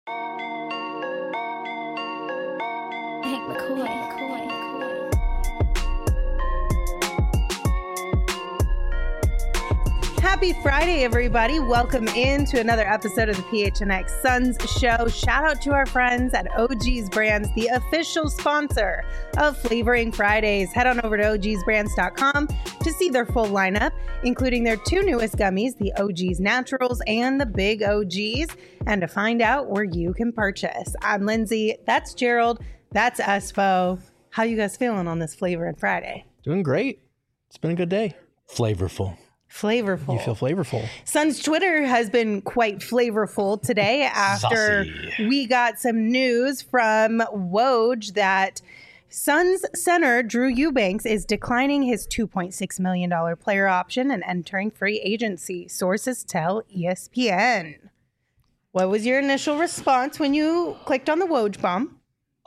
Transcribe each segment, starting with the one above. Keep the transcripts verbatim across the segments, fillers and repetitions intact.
Hank McCoy. Happy Friday, everybody. Welcome in to another episode of the P H N X Suns Show. Shout out to our friends at O G's Brands, the official sponsor of Flavoring Fridays. Head on over to O Gs brands dot com to see their full lineup, including their two newest gummies, the O G's Naturals and the Big O Gs, and to find out where you can purchase. I'm Lindsay. That's Gerald. That's Espo. How you guys feeling on this Flavoring Friday? Doing great. It's been a good day. Flavorful. Flavorful. You feel flavorful. Suns Twitter has been quite flavorful today after Saucy. we got some news from Woj that Suns center Drew Eubanks is declining his two point six million dollars player option and entering free agency. Sources tell E S P N. What was your initial response when you clicked on the Woj bomb?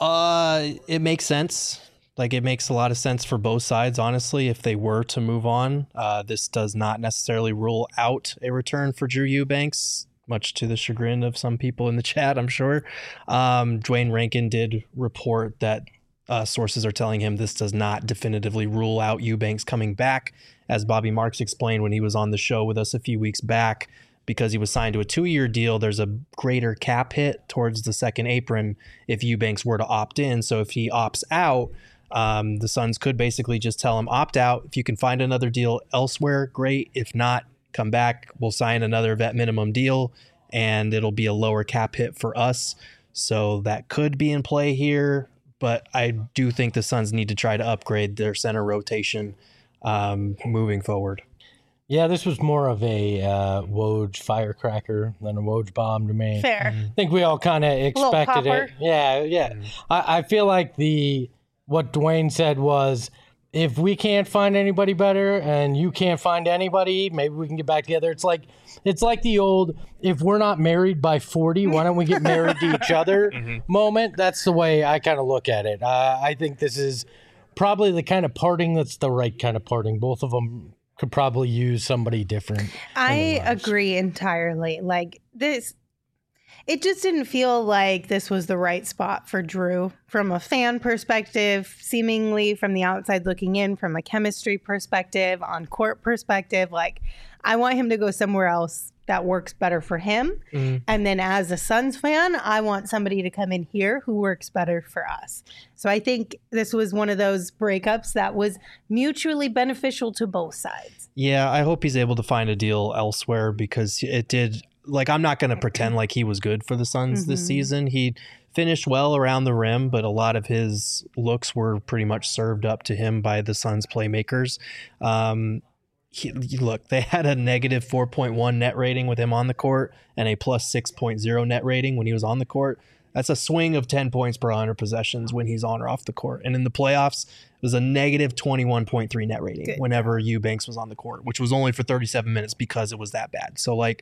Uh, it makes sense. Like, it makes a lot of sense for both sides, honestly, if they were to move on. Uh, this does not necessarily rule out a return for Drew Eubanks, much to the chagrin of some people in the chat, I'm sure. Um, Dwayne Rankin did report that uh, sources are telling him this does not definitively rule out Eubanks coming back, as Bobby Marks explained when he was on the show with us a few weeks back. Because he was signed to a two-year deal, there's a greater cap hit towards the second apron if Eubanks were to opt in. So if he opts out, Um, the Suns could basically just tell him, opt out. If you can find another deal elsewhere, great. If not, come back. We'll sign another vet minimum deal, and it'll be a lower cap hit for us. So that could be in play here. But I do think the Suns need to try to upgrade their center rotation um, moving forward. Yeah, this was more of a uh, Woj firecracker than a Woj bomb to me. Fair. I think we all kind of expected popper. it. Yeah, yeah. Mm. I, I feel like the what Dwayne said was, if we can't find anybody better and you can't find anybody, maybe we can get back together. It's like it's like the old, if we're not married by forty, why don't we get married to each other Mm-hmm. moment. That's the way I kind of look at it. Uh, I think this is probably the kind of parting that's the right kind of parting. Both of them could probably use somebody different. I in their lives. agree entirely. Like this, it just didn't feel like this was the right spot for Drew from a fan perspective, seemingly from the outside looking in, from a chemistry perspective, on court perspective. Like, I want him to go somewhere else that works better for him. Mhm. And then as a Suns fan, I want somebody to come in here who works better for us. So I think this was one of those breakups that was mutually beneficial to both sides. Yeah, I hope he's able to find a deal elsewhere, because it did, like, I'm not going to pretend like he was good for the Suns this Mhm. season. He finished well around the rim, but a lot of his looks were pretty much served up to him by the Suns playmakers. Um, he, look, they had a negative four point one net rating with him on the court and a plus six point oh net rating when he was on the court. That's a swing of ten points per one hundred possessions when he's on or off the court. And in the playoffs, it was a negative twenty-one point three net rating Good. whenever Eubanks was on the court, which was only for thirty-seven minutes because it was that bad. So, like,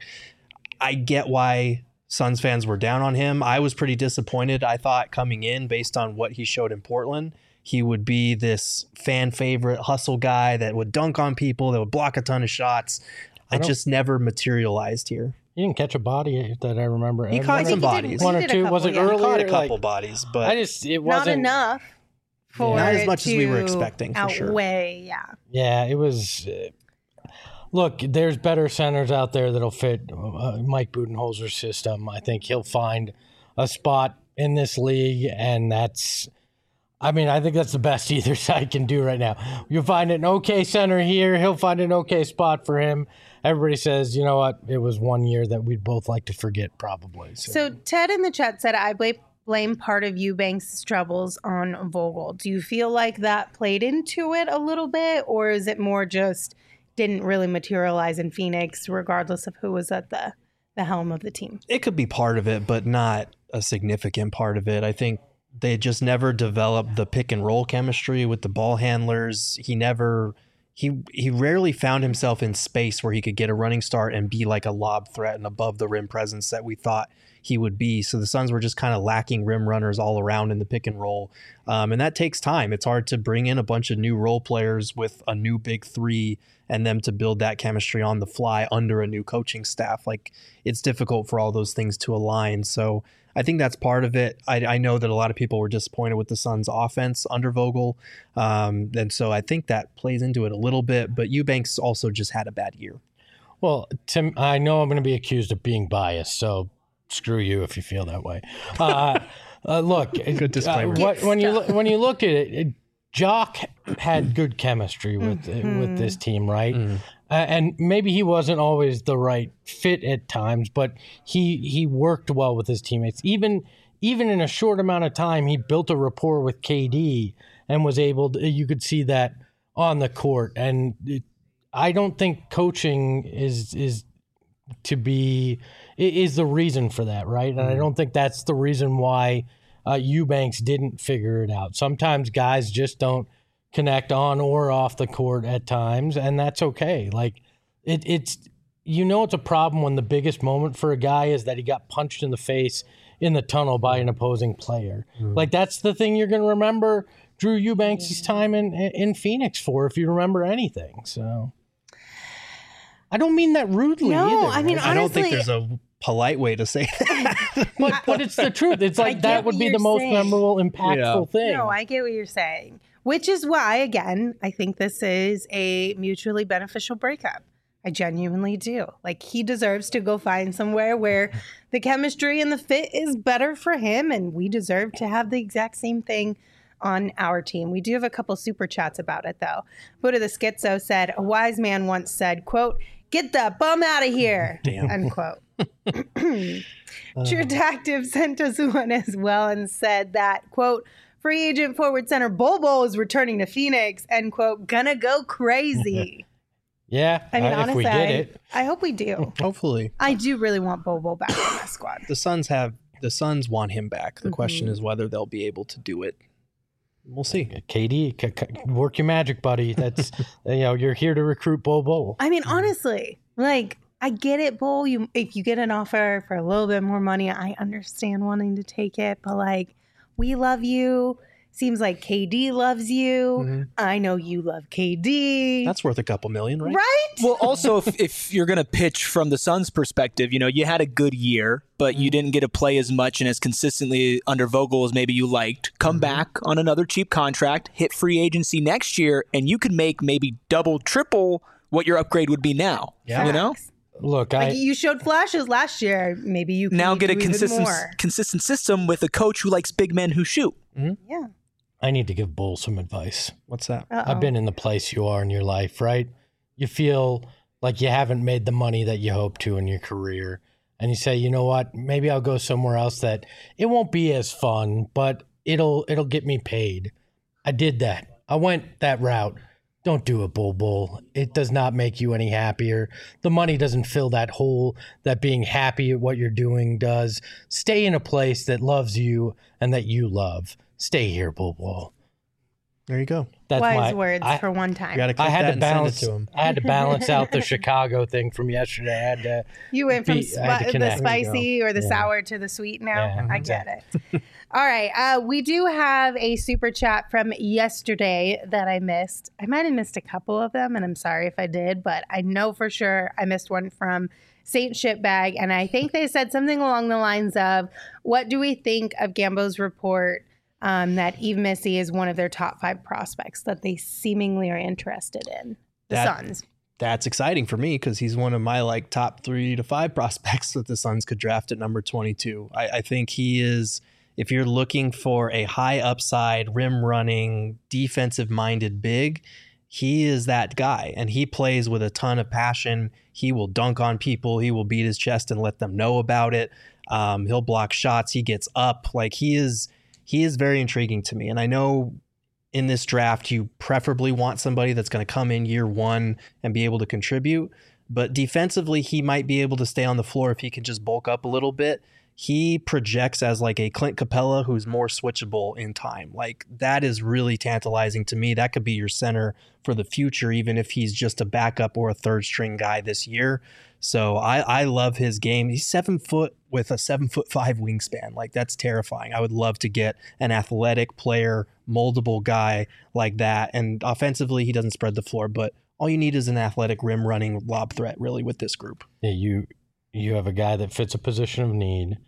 I get why Suns fans were down on him. I was pretty disappointed. I thought coming in, based on what he showed in Portland, he would be this fan favorite hustle guy that would dunk on people, that would block a ton of shots. I I don't- just never materialized here. You didn't catch a body that I remember. He And caught one some or- bodies. One or He did a two. couple, Was it yeah. He earlier? caught a couple Like, bodies, but I just it Not wasn't enough for Not as it much as we were to expecting, for sure. outweigh, yeah. Yeah, it was. Uh, look, there's better centers out there that'll fit uh, Mike Budenholzer's system. I think he'll find a spot in this league, and that's. I mean, I think that's the best either side can do right now. You'll find an okay center here. He'll find an okay spot for him. Everybody says, you know what? It was one year that we'd both like to forget, probably. So, So Ted in the chat said, I blame blame part of Eubanks' troubles on Vogel. Do you feel like that played into it a little bit, or is it more just didn't really materialize in Phoenix, regardless of who was at the, the helm of the team? it could be part of it, but not a significant part of it. I think they just never developed the pick and roll chemistry with the ball handlers. He never, he he rarely found himself in space where he could get a running start and be like a lob threat and above the rim presence that we thought he would be. So the Suns were just kind of lacking rim runners all around in the pick and roll. Um, and that takes time. It's hard to bring in a bunch of new role players with a new big three and them to build that chemistry on the fly under a new coaching staff. Like, it's difficult for all those things to align. So I think that's part of it. I, I know that a lot of people were disappointed with the Suns' offense under Vogel, um, and so I think that plays into it a little bit. But Eubanks also just had a bad year. Well, Tim, I know I'm going to be accused of being biased, so screw you if you feel that way. Uh, uh, look, Good disclaimer. Uh, what, when you look, when you look at it, it Jock had good chemistry with mm-hmm. with this team, right? Mm. Uh, and maybe he wasn't always the right fit at times, but he he worked well with his teammates. Even even in a short amount of time, he built a rapport with K D and was able to, you could see that on the court. And it, I don't think coaching is is to be is the reason for that, right? And mm. I don't think that's the reason why Uh, Eubanks didn't figure it out. Sometimes guys just don't connect on or off the court at times, and that's okay. Like it, it's, you know, it's a problem when the biggest moment for a guy is that he got punched in the face in the tunnel by an opposing player. Mm-hmm. Like that's the thing you're going to remember Drew Eubanks' time in in Phoenix for, if you remember anything. So I don't mean that rudely. No, either, I mean, right? I don't honestly, think there's a polite way to say that. but, but it's the truth. It's like that would be the most saying. memorable, impactful Yeah. thing. No, I get what you're saying, which is why, again, I think this is a mutually beneficial breakup. I genuinely do. Like, he deserves to go find somewhere where the chemistry and the fit is better for him, and we deserve to have the exact same thing on our team. We do have a couple super chats about it, though. Buddha the Schizo said, a wise man once said, quote, "Get that bum out of here," Damn. unquote. True Detective sent us one as well and said that, quote, "Free agent forward center Bol Bol is returning to Phoenix," end quote, "gonna go crazy." Yeah, I mean, uh, honestly, if we get I, it. I hope we do. Hopefully. I do really want Bol Bol back on my squad. The Suns have the Suns want him back. The Mm-hmm. question is whether they'll be able to do it. We'll see. K D, c- c- work your magic, buddy. That's you know, you're here to recruit Bol Bol. I mean, honestly, like, I get it, Bol. You, if you get an offer for a little bit more money, I understand wanting to take it. But, like, we love you. Seems like K D loves you. Mm-hmm. I know you love K D. That's worth a couple million, right? right. Well, also, if, if you're going to pitch from the Suns' perspective, you know, you had a good year, but you didn't get to play as much and as consistently under Vogel as maybe you liked. Come Mm-hmm. back on another cheap contract, hit free agency next year, and you can make maybe double, triple what your upgrade would be now. Yeah. You know? Look, Like, I you showed flashes last year. Maybe you can Now get a do even consistent more. consistent system with a coach who likes big men who shoot. Yeah. I need to give Bol some advice. What's that? Uh-oh. I've been in the place you are in your life, right? You feel like you haven't made the money that you hope to in your career. And you say, you know what, maybe I'll go somewhere else that it won't be as fun, but it'll it'll get me paid. I did that. I went that route. Don't do it, Bol Bol. It does not make you any happier. The money doesn't fill that hole that being happy at what you're doing does. Stay in a place that loves you and that you love. Stay here, Bol Bol. There you go. That's Wise my, words I, for one You time. got to clip I had that to and balance. send it to him. I had to balance out the Chicago thing from yesterday. I had to. You went from be- sp- I had to the connect. spicy or the Yeah. sour to the sweet now. Yeah, I get it. All right. Uh, we do have a super chat from yesterday that I missed. I might have missed a couple of them, and I'm sorry if I did, but I know for sure I missed one from Saint Shitbag, and I think they said something along the lines of, what do we think of Gambo's report um, that Eve Missy is one of their top five prospects that they seemingly are interested in? The That- Suns. That's exciting for me because he's one of my like top three to five prospects that the Suns could draft at number twenty-two. I, I think he is, if you're looking for a high upside, rim running, defensive minded big, he is that guy. And he plays with a ton of passion. He will dunk on people. He will beat his chest and let them know about it. Um, he'll block shots. He gets up. Like he is, he is very intriguing to me. And I know in this draft, you preferably want somebody that's going to come in year one and be able to contribute. But defensively, he might be able to stay on the floor if he can just bulk up a little bit. He projects as like a Clint Capella who's more switchable in time. Like that is really tantalizing to me. That could be your center for the future, even if he's just a backup or a third string guy this year. So I, I love his game. He's seven foot with a seven foot five wingspan. Like that's terrifying. I would love to get an athletic player, moldable guy like that. And offensively, he doesn't spread the floor, but all you need is an athletic rim running lob threat really with this group. Yeah, you you have a guy that fits a position of need. Mm-hmm.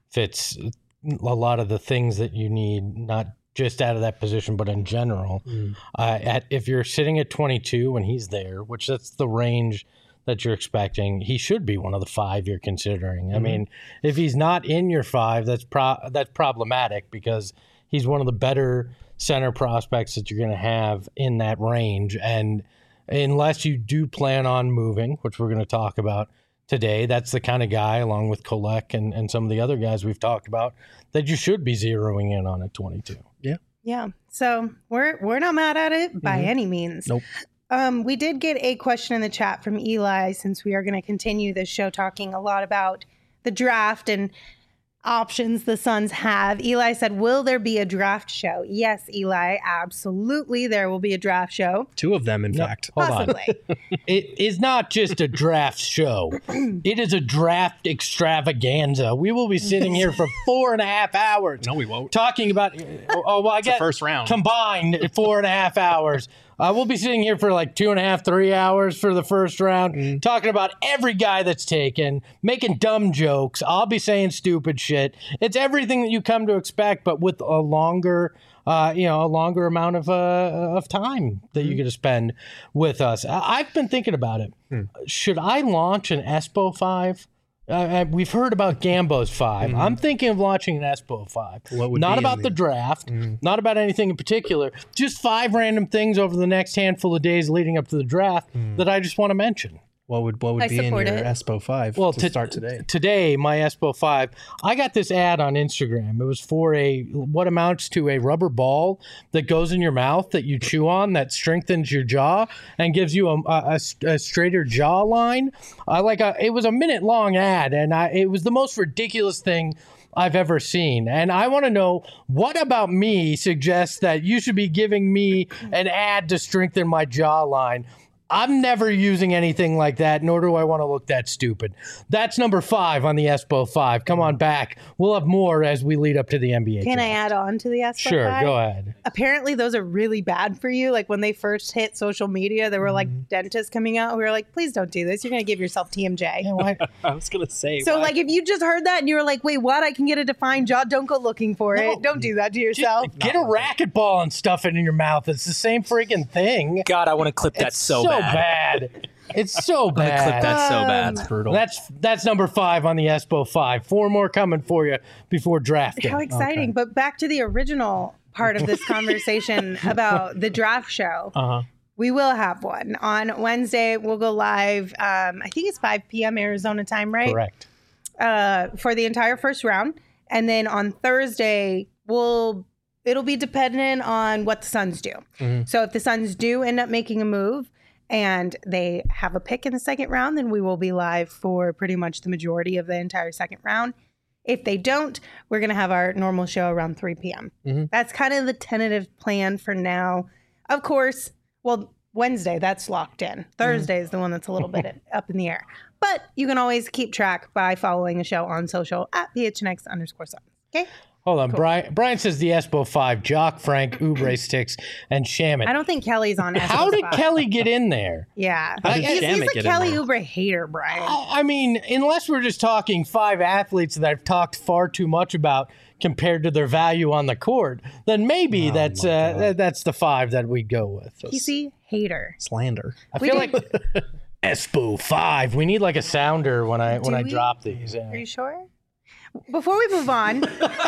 fits a lot of the things that you need, not just out of that position, but in general. Mm. Uh, at if you're sitting at twenty-two when he's there, which that's the range that you're expecting, he should be one of the five you're considering. Mm-hmm. I mean, if he's not in your five, that's pro- that's problematic because he's one of the better center prospects that you're going to have in that range. And unless you do plan on moving, which we're going to talk about today, that's the kind of guy, along with Kolek and, and some of the other guys we've talked about, that you should be zeroing in on at twenty-two. Yeah. Yeah. So we're we're not mad at it by mm-hmm. any means. Nope. Um, we did get a question in the chat from Eli, since we are going to continue this show talking a lot about the draft and options the Suns have. Eli said, will there be a draft show? Yes, Eli, absolutely there will be a draft show. Two of them, in no, fact. Hold Possibly. on. It is not just a draft show. It is a draft extravaganza. We will be sitting here for four and a half hours. No, we won't. Talking about, oh, well, I it's get the first round. Combined four and a half hours. Uh, we'll be sitting here for like two and a half, three hours for the first round, mm. talking about every guy that's taken, making dumb jokes. I'll be saying stupid shit. It's everything that you come to expect, but with a longer, uh, you know, a longer amount of uh, of time that mm. you get to spend with us. I- I've been thinking about it. Mm. Should I launch an Espo five? Uh, we've heard about Gambo's five. Mm-hmm. I'm thinking of launching an Espo five. What would not be about the... the draft, mm-hmm. not about anything in particular, just five random things over the next handful of days leading up to the draft mm. that I just want to mention. What would what would I be in your it. Espo five well, to t- start today? Today, my Espo five, I got this ad on Instagram. It was for a what amounts to a rubber ball that goes in your mouth that you chew on that strengthens your jaw and gives you a, a, a straighter jawline. I like a, it was a minute long ad, and I, it was the most ridiculous thing I've ever seen. And I want to know, what about me suggests that you should be giving me an ad to strengthen my jawline? I'm never using anything like that, nor do I want to look that stupid. That's number five on the Espo five. Come on back. We'll have more as we lead up to the N B A Can draft. I add on to the Espo Sure, five? go ahead. Apparently, those are really bad for you. Like, when they first hit social media, there were, like, mm-hmm. dentists coming out who were like, please don't do this. You're going to give yourself T M J. Yeah, why? I was going to say, So, why? like, if you just heard that and you were like, wait, what? I can get a defined jaw? Don't go looking for No. it. Don't do that to yourself. Just get a racquetball and stuff it in your mouth. It's the same freaking thing. God, I want to clip that It's so, so bad. bad. It's so I want to clip bad. that so bad. That's brutal. That's that's number five on the Espo five. Four more coming for you before drafting. How exciting. Okay. But back to the original part of this conversation about the draft show. Uh-huh. We will have one on Wednesday. We'll go live. Um, I think it's five p.m. Arizona time, right? Correct. Uh, for the entire first round. And then on Thursday, we'll it'll be dependent on what the Suns do. Mm-hmm. So if the Suns do end up making a move and they have a pick in the second round, then we will be live for pretty much the majority of the entire second round. If they don't, we're going to have our normal show around three p.m. Mm-hmm. That's kind of the tentative plan for now. Of course, well, Wednesday, that's locked in. Thursday mm-hmm. is the one that's a little bit up in the air. But you can always keep track by following the show on social at P H N X underscore Suns. Okay? Hold on. Cool. Brian Brian says the Espo five, Jock, Frank, Oubre Sticks, and Shamit. I don't think Kelly's on Espo How did five. Kelly get in there? Yeah. How did he's, Shamit he's a get in Kelly there? Oubre hater, Brian. I I mean, unless we're just talking five athletes that I've talked far too much about compared to their value on the court, then maybe Oh that's my uh, God. th- that's the five that we go with. P C hater. Slander. I We feel did- like Espo five. We need like a sounder when I when Do I we? drop these. Yeah. Are you sure? Before we move on,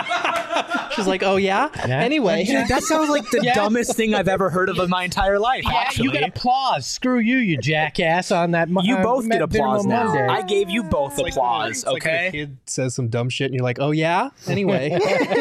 She's like, oh, yeah? Yeah. Anyway. Dude, that sounds like the Yeah. dumbest thing I've ever heard of in my entire life. Yeah, actually, you get applause. Screw you, you jackass! On that, mo- You uh, both get Ma- applause Minimum now. Monday. I gave you both applause. It's like when a Okay. kid says some dumb shit and you're like, oh, yeah? Anyway.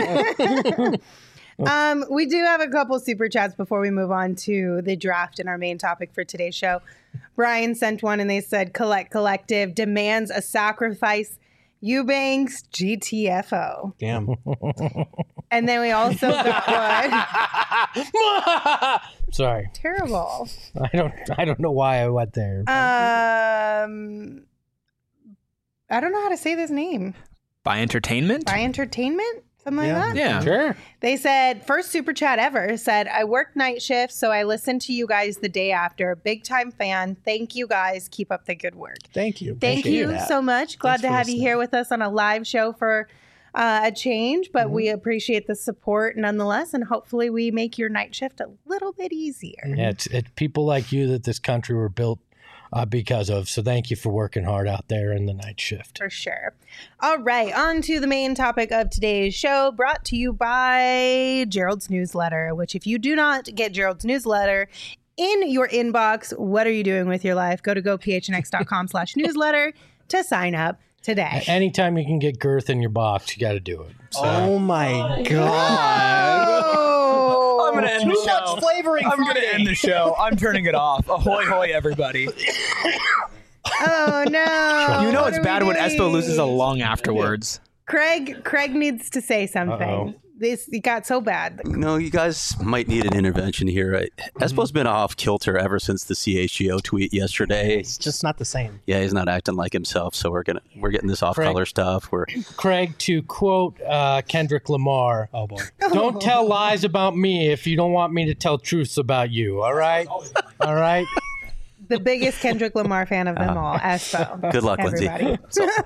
um, we do have a couple super chats before we move on to the draft and our main topic for today's show. Brian sent one and they said, Collect Collective demands a sacrifice. Eubanks G T F O. Damn. And then we also got one. Sorry, Terrible. I don't. I don't know why I went there. Um, I don't know how to say this name. By entertainment. By Entertainment? Something like Yeah. that? Yeah. Sure. They said, first super chat ever, said, I work night shifts, so I listen to you guys the day after. Big time fan. Thank you guys. Keep up the good work. Thank you. Thank Appreciate you that. so much. Glad Thanks to for have you listening. here with us on a live show for uh, a change, but Mhm. we appreciate the support nonetheless. And hopefully we make your night shift a little bit easier. Yeah, it's, it's people like you that this country were built uh, because of. So thank you for working hard out there in the night shift. For sure. All right, on to the main topic of today's show, brought to you by Gerald's newsletter, which if you do not get Gerald's newsletter in your inbox, what are you doing with your life? Go to go p h n x dot com slash newsletter to sign up today. Anytime you can get girth in your box, you got to do it. So. Oh my god! Oh, I'm gonna end Too the show. much flavoring. I'm Friday. gonna end the show. I'm turning it off. Ahoy, hoy, everybody. oh no. You know What it's are bad we when doing? Espo loses a lung afterwards. Craig, Craig needs to say something. Uh-oh. This it got so bad. No, you guys might need an intervention here. I, Espo's been off kilter ever since the C H G O tweet yesterday. It's just not the same. Yeah, he's not acting like himself, so we're gonna we're getting this off color stuff. We're Craig, to quote uh, Kendrick Lamar, Oh boy. don't tell lies about me if you don't want me to tell truths about you. All right? All right? The biggest Kendrick Lamar fan of them all, Espo. good luck, Lindsay. Everybody.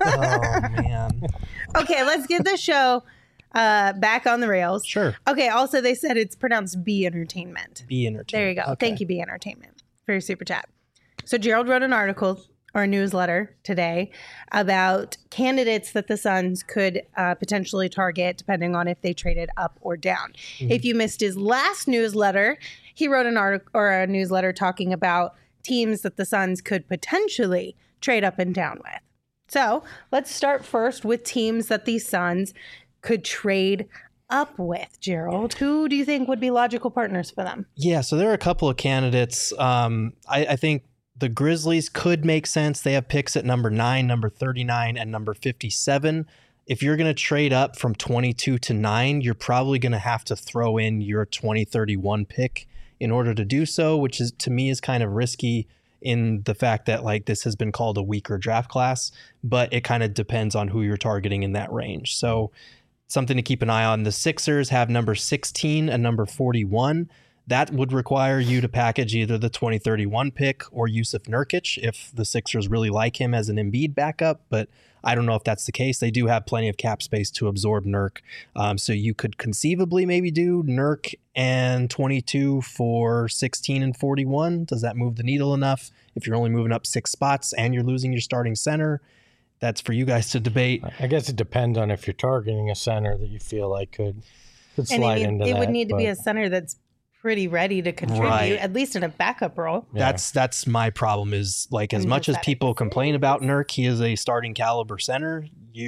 Oh man. Okay, let's get the show uh, back on the rails. Sure. Okay, also they said it's pronounced B Entertainment. Be entertained. There you go. Okay. Thank you, B Entertainment, for your super chat. So Gerald wrote an article or a newsletter today about candidates that the Suns could uh, potentially target depending on if they traded up or down. Mm-hmm. If you missed his last newsletter, he wrote an article or a newsletter talking about teams that the Suns could potentially trade up and down with. So let's start first with teams that the Suns could trade up with. Gerald, who do you think would be logical partners for them? Yeah, so there are a couple of candidates. Um, I, I think the Grizzlies could make sense. They have picks at number nine, number thirty-nine, and number fifty-seven. If you're going to trade up from twenty-two to nine, you're probably going to have to throw in your twenty thirty-one pick in order to do so, which is to me is kind of risky in the fact that like this has been called a weaker draft class, but it kind of depends on who you're targeting in that range. So something to keep an eye on. The Sixers have number sixteen and number forty-one. That would require you to package either the twenty thirty-one pick or Yusuf Nurkic if the Sixers really like him as an Embiid backup, but I don't know if that's the case. They do have plenty of cap space to absorb Nurk. Um, so you could conceivably maybe do Nurk and twenty-two for sixteen and forty-one. Does that move the needle enough? If you're only moving up six spots and you're losing your starting center, that's for you guys to debate. I guess it depends on if you're targeting a center that you feel like could, could And slide it, into it that. would need to be but- a center that's pretty ready to contribute, Right. at least in a backup role. Yeah. That's that's my problem is like as And much as pathetic. people complain about Nurk, he is a starting caliber center.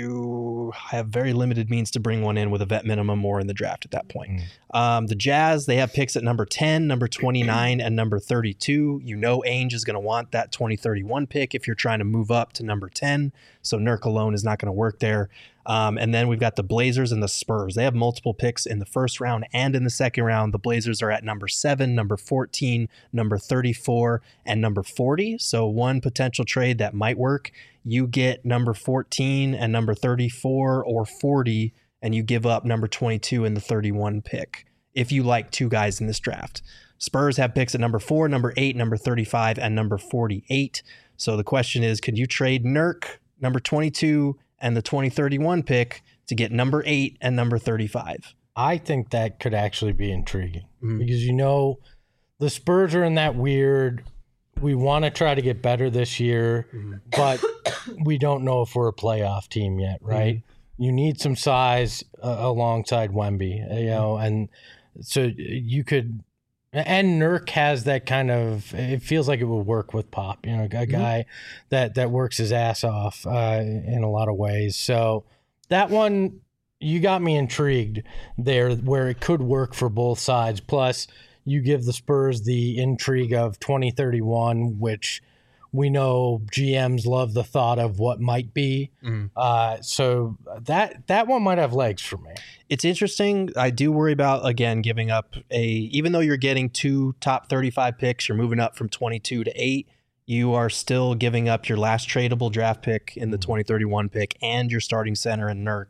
You have very limited means to bring one in with a vet minimum or in the draft at that point. Mm. Um, the Jazz, they have picks at number ten, number twenty-nine, and number thirty-two. You know Ainge is going to want that twenty thirty-one pick if you're trying to move up to number ten. So Nurk alone is not going to work there. Um, and then we've got the Blazers and the Spurs. They have multiple picks in the first round and in the second round. The Blazers are at number seven, number fourteen, number thirty-four, and number forty. So one potential trade that might work. You get number fourteen and number thirty-four or forty, and you give up number twenty-two and the thirty-one pick if you like two guys in this draft. Spurs have picks at number four, number eight, number thirty-five, and number forty-eight. So the question is, could you trade Nurk, number twenty-two, and the twenty thirty-one pick to get number eight and number thirty-five? I think that could actually be intriguing Mhm. because, you know, the Spurs are in that weird, we want to try to get better this year, but we don't know if we're a playoff team yet, right? You need some size uh, alongside Wemby, you know, and so you could, and Nurk has that kind of, it feels like it would work with Pop, you know, a guy that, that works his ass off uh, in a lot of ways. So that one, you got me intrigued there where it could work for both sides. Plus, you give the Spurs the intrigue of twenty thirty-one, which we know G Ms love the thought of what might be. Mhm. Uh, so that that one might have legs for me. It's interesting. I do worry about, again, giving up a, even though you're getting two top thirty-five picks, you're moving up from twenty-two to eight, you are still giving up your last tradable draft pick in the twenty thirty-one pick and your starting center in Nurk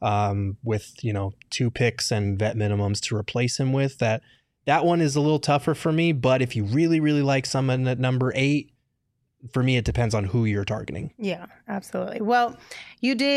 um, with, you know, two picks and vet minimums to replace him with. That that one is a little tougher for me, but if you really, really like someone at number eight, for me, it depends on who you're targeting. Yeah, absolutely. Well, you did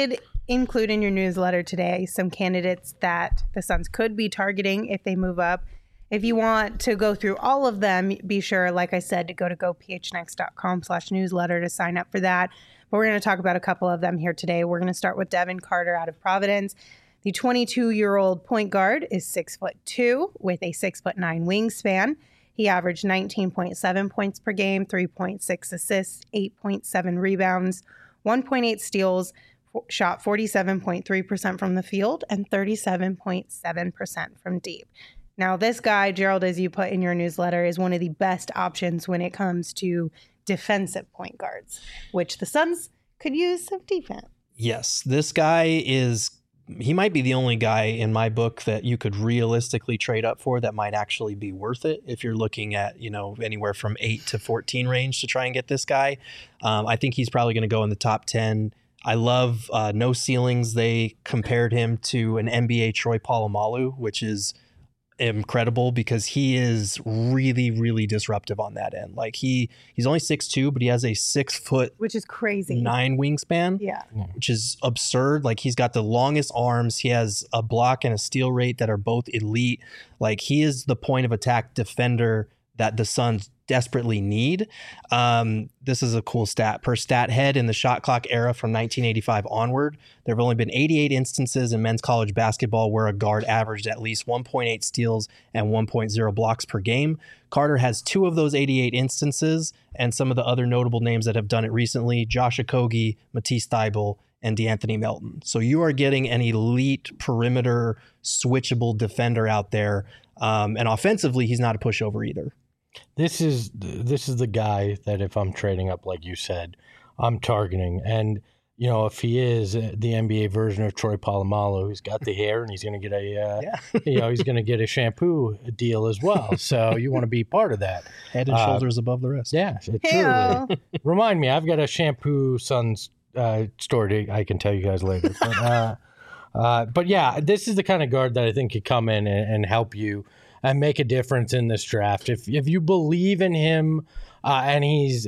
include in your newsletter today some candidates that the Suns could be targeting if they move up. If you want to go through all of them, be sure, like I said, to go to gophnx.com slash newsletter to sign up for that. But we're going to talk about a couple of them here today. We're going to start with Devin Carter out of Providence. The twenty-two-year-old point guard is six foot two with a six foot nine wingspan. He averaged nineteen point seven points per game, three point six assists, eight point seven rebounds, one point eight steals, shot forty-seven point three percent from the field and thirty-seven point seven percent from deep. Now, this guy, Gerald, as you put in your newsletter, is one of the best options when it comes to defensive point guards, which the Suns could use some defense. Yes, this guy is, he might be the only guy in my book that you could realistically trade up for that might actually be worth it if you're looking at, you know, anywhere from eight to fourteen range to try and get this guy. Um, I think he's probably going to go in the top ten. I love uh, No Ceilings. They compared him to an N B A Troy Polamalu, which is incredible because he is really, really disruptive on that end. Like he, he's only six two, but he has a six foot, which is crazy, nine wingspan. Yeah, which is absurd. Like he's got the longest arms. He has a block and a steal rate that are both elite. Like he is the point of attack defender that the Suns desperately need. Um, this is a cool stat. Per stat head in the shot clock era from nineteen eighty-five onward, there have only been eighty-eight instances in men's college basketball where a guard averaged at least one point eight steals and one point oh blocks per game. Carter has two of those eighty-eight instances, and some of the other notable names that have done it recently, Josh Okogie, Matisse Thybulle, and DeAnthony Melton. So you are getting an elite perimeter switchable defender out there. Um, and offensively, he's not a pushover either. This is this is the guy that if I'm trading up, like you said, I'm targeting. And, you know, if he is the N B A version of Troy Polamalu, he's got the hair and he's going to get a, uh, yeah. you know, he's going to get a shampoo deal as well. So you want to be part of that. Head and uh, shoulders above the rest. Yeah, truly. Remind me, I've got a shampoo Suns uh, story I can tell you guys later. But, uh, uh, but yeah, this is the kind of guard that I think could come in and, and help you and make a difference in this draft. If if you believe in him uh, and he's,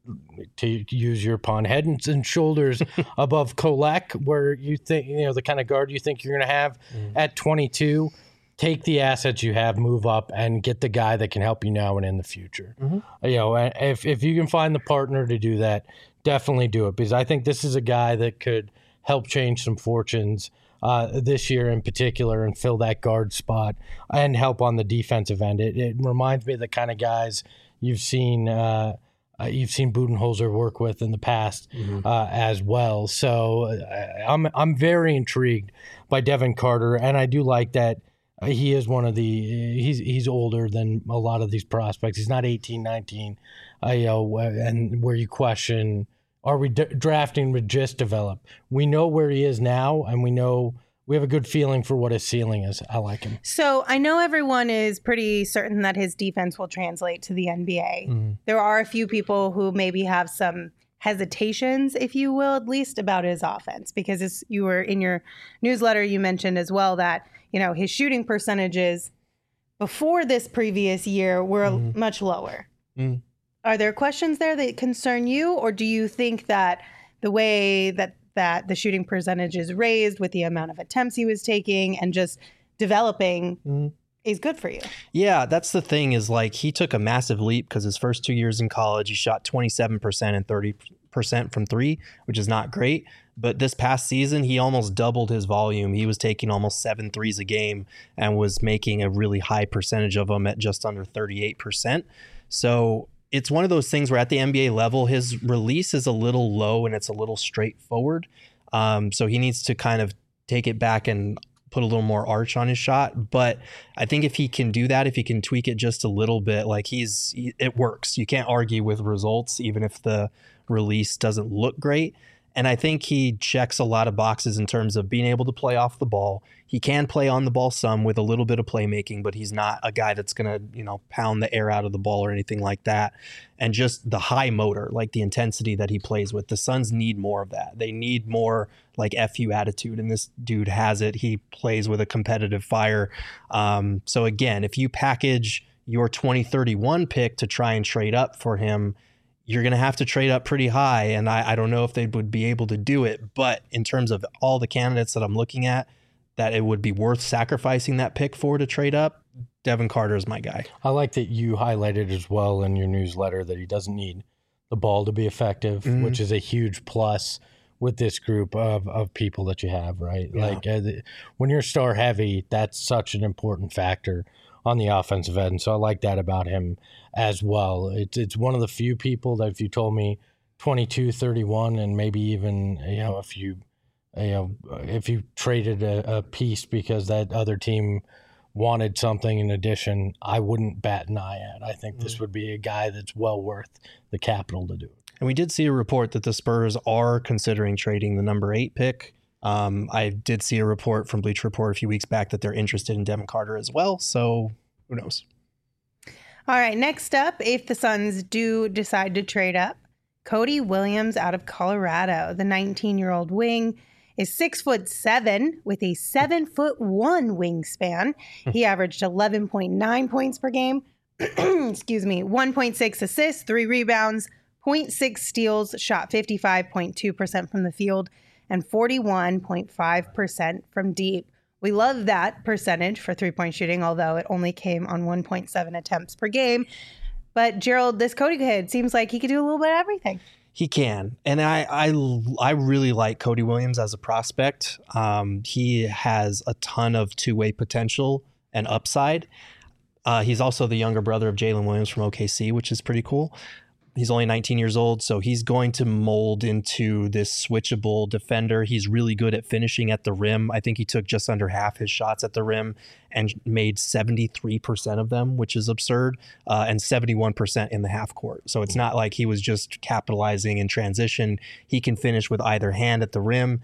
to use your pun, head and shoulders above Kolek, where you think, you know, the kind of guard you think you're going to have mm. at twenty-two, take the assets you have, move up, and get the guy that can help you now and in the future. Mm-hmm. You know, if if you can find the partner to do that, definitely do it, because I think this is a guy that could help change some fortunes Uh, this year in particular and fill that guard spot and help on the defensive end. It, it reminds me of the kind of guys you've seen uh, uh, you've seen Budenholzer work with in the past mm-hmm. uh, as well. So uh, I'm I'm very intrigued by Devin Carter, and I do like that he is one of the he's he's older than a lot of these prospects. He's not eighteen, nineteen, uh, you know, and where you question, are we d- drafting with just develop? We know where he is now, and we know we have a good feeling for what his ceiling is. I like him. So I know everyone is pretty certain that his defense will translate to the N B A. Mm. There are a few people who maybe have some hesitations, if you will, at least about his offense, because as you were in your newsletter, you mentioned as well that, you know, his shooting percentages before this previous year were mm. much lower. Mm. Are there questions there that concern you, or do you think that the way that, that the shooting percentage is raised with the amount of attempts he was taking and just developing mm. is good for you? Yeah, that's the thing is like he took a massive leap because his first two years in college, he shot twenty-seven percent and thirty percent from three, which is not great. But this past season, he almost doubled his volume. He was taking almost seven threes a game and was making a really high percentage of them at just under thirty-eight percent. So it's one of those things where at the N B A level, his release is a little low and it's a little straightforward. Um, so he needs to kind of take it back and put a little more arch on his shot. But I think if he can do that, if he can tweak it just a little bit, like he's, it works. You can't argue with results, even if the release doesn't look great. And I think he checks a lot of boxes in terms of being able to play off the ball. He can play on the ball some with a little bit of playmaking, but he's not a guy that's going to, you know, pound the air out of the ball or anything like that. And just the high motor, like the intensity that he plays with. The Suns need more of that. They need more like F U attitude, and this dude has it. He plays with a competitive fire. Um, so again, if you package your twenty thirty-one pick to try and trade up for him, you're going to have to trade up pretty high. And I, I don't know if they would be able to do it. But in terms of all the candidates that I'm looking at, that it would be worth sacrificing that pick for to trade up, Devin Carter is my guy. I like that you highlighted as well in your newsletter that he doesn't need the ball to be effective, mm-hmm. which is a huge plus with this group of, of people that you have, right? Yeah. Like uh, the, when you're star heavy, that's such an important factor on the offensive end. So I like that about him as well. It's it's one of the few people that if you told me twenty-two, thirty-one, and maybe even, you know, if you, you know, if you traded a, a piece because that other team wanted something in addition, I wouldn't bat an eye at. I think mm-hmm. this would be a guy that's well worth the capital to do it. And we did see a report that the Spurs are considering trading the number eight pick. Um, I did see a report from Bleacher Report a few weeks back that they're interested in Devin Carter as well. So who knows? All right. Next up, if the Suns do decide to trade up, Cody Williams out of Colorado, the nineteen-year-old wing, is six foot seven with a seven foot one wingspan. He averaged eleven point nine points per game. Excuse me. one point six assists, three rebounds, zero point six steals, shot fifty-five point two percent from the field, and forty-one point five percent from deep. We love that percentage for three-point shooting, although it only came on one point seven attempts per game. But Gerald, this Cody kid seems like he could do a little bit of everything. He can. And I, I, I really like Cody Williams as a prospect. Um, he has a ton of two-way potential and upside. Uh, he's also the younger brother of Jalen Williams from O K C, which is pretty cool. He's only nineteen years old, so he's going to mold into this switchable defender. He's really good at finishing at the rim. I think he took just under half his shots at the rim and made seventy-three percent of them, which is absurd, uh, and seventy-one percent in the half court. So it's not like he was just capitalizing in transition. He can finish with either hand at the rim.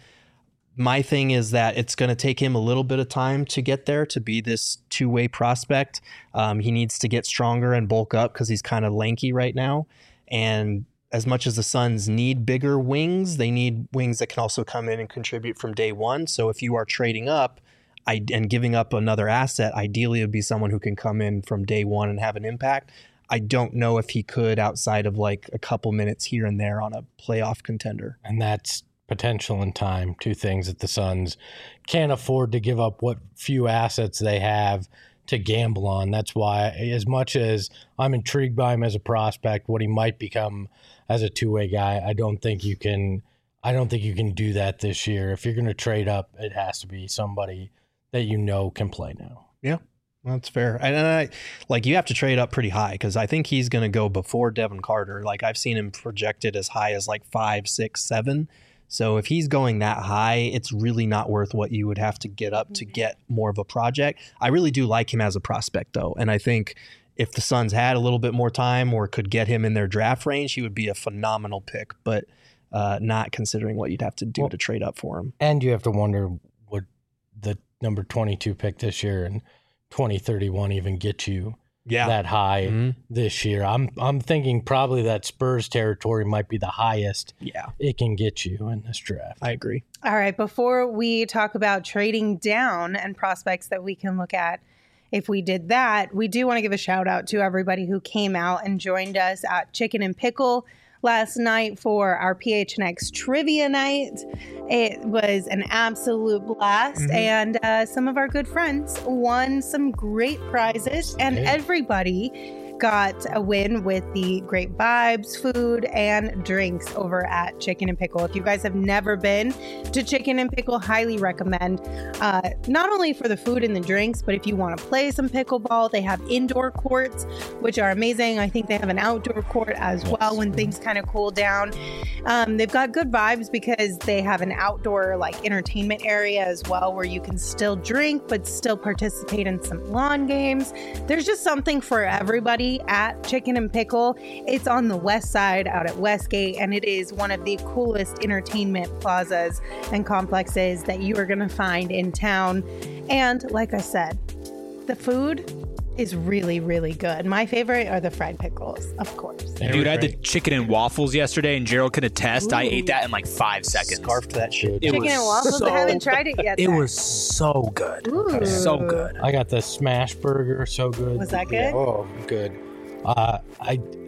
My thing is that it's going to take him a little bit of time to get there to be this two-way prospect. Um, he needs to get stronger and bulk up because he's kind of lanky right now. And as much as the Suns need bigger wings, they need wings that can also come in and contribute from day one. So if you are trading up I, and giving up another asset, ideally it would be someone who can come in from day one and have an impact. I don't know if he could outside of like a couple minutes here and there on a playoff contender. And that's potential and time, two things that the Suns can't afford to give up what few assets they have to gamble on. That's why, as much as I'm intrigued by him as a prospect, what he might become as a two-way guy, I don't think you can I don't think you can do that this year. If you're going to trade up, it has to be somebody that you know can play now. Yeah, that's fair. And I, like, you have to trade up pretty high because I think he's going to go before Devin Carter. Like, I've seen him projected as high as like five, six, seven. So if he's going that high, it's really not worth what you would have to get up to get more of a project. I really do like him as a prospect, though. And I think if the Suns had a little bit more time or could get him in their draft range, he would be a phenomenal pick, but uh, not considering what you'd have to do well, to trade up for him. And you have to wonder, would the number twenty-two pick this year and twenty thirty-one even get you yeah. that high mm-hmm. this year? I'm I'm thinking probably that Spurs territory might be the highest yeah. it can get you in this draft. I agree. All right, before we talk about trading down and prospects that we can look at, if we did that, we do want to give a shout out to everybody who came out and joined us at Chicken and Pickle last night for our P H N X trivia night. It was an absolute blast, mm-hmm. and uh, some of our good friends won some great prizes, and hey. everybody got a win with the great vibes, food, and drinks over at Chicken and Pickle. If you guys have never been to Chicken and Pickle, highly recommend. Uh, not only for the food and the drinks, but if you want to play some pickleball, they have indoor courts, which are amazing. I think they have an outdoor court as yes. well when things kind of cool down. Um, they've got good vibes because they have an outdoor like entertainment area as well where you can still drink but still participate in some lawn games. There's just something for everybody at Chicken and Pickle. It's on the west side out at Westgate, and it is one of the coolest entertainment plazas and complexes that you are going to find in town. And like I said, the food is really, really good. My favorite are the fried pickles, of course. Dude, I had the chicken and waffles yesterday, and Gerald could attest. Ooh. I ate that in like five seconds. Scarfed that shit. It chicken and waffles? So, I haven't tried it yet. It then. was so good. Ooh. So good. I got the smash burger. So good. Was that good? Yeah. Oh, good. Uh, I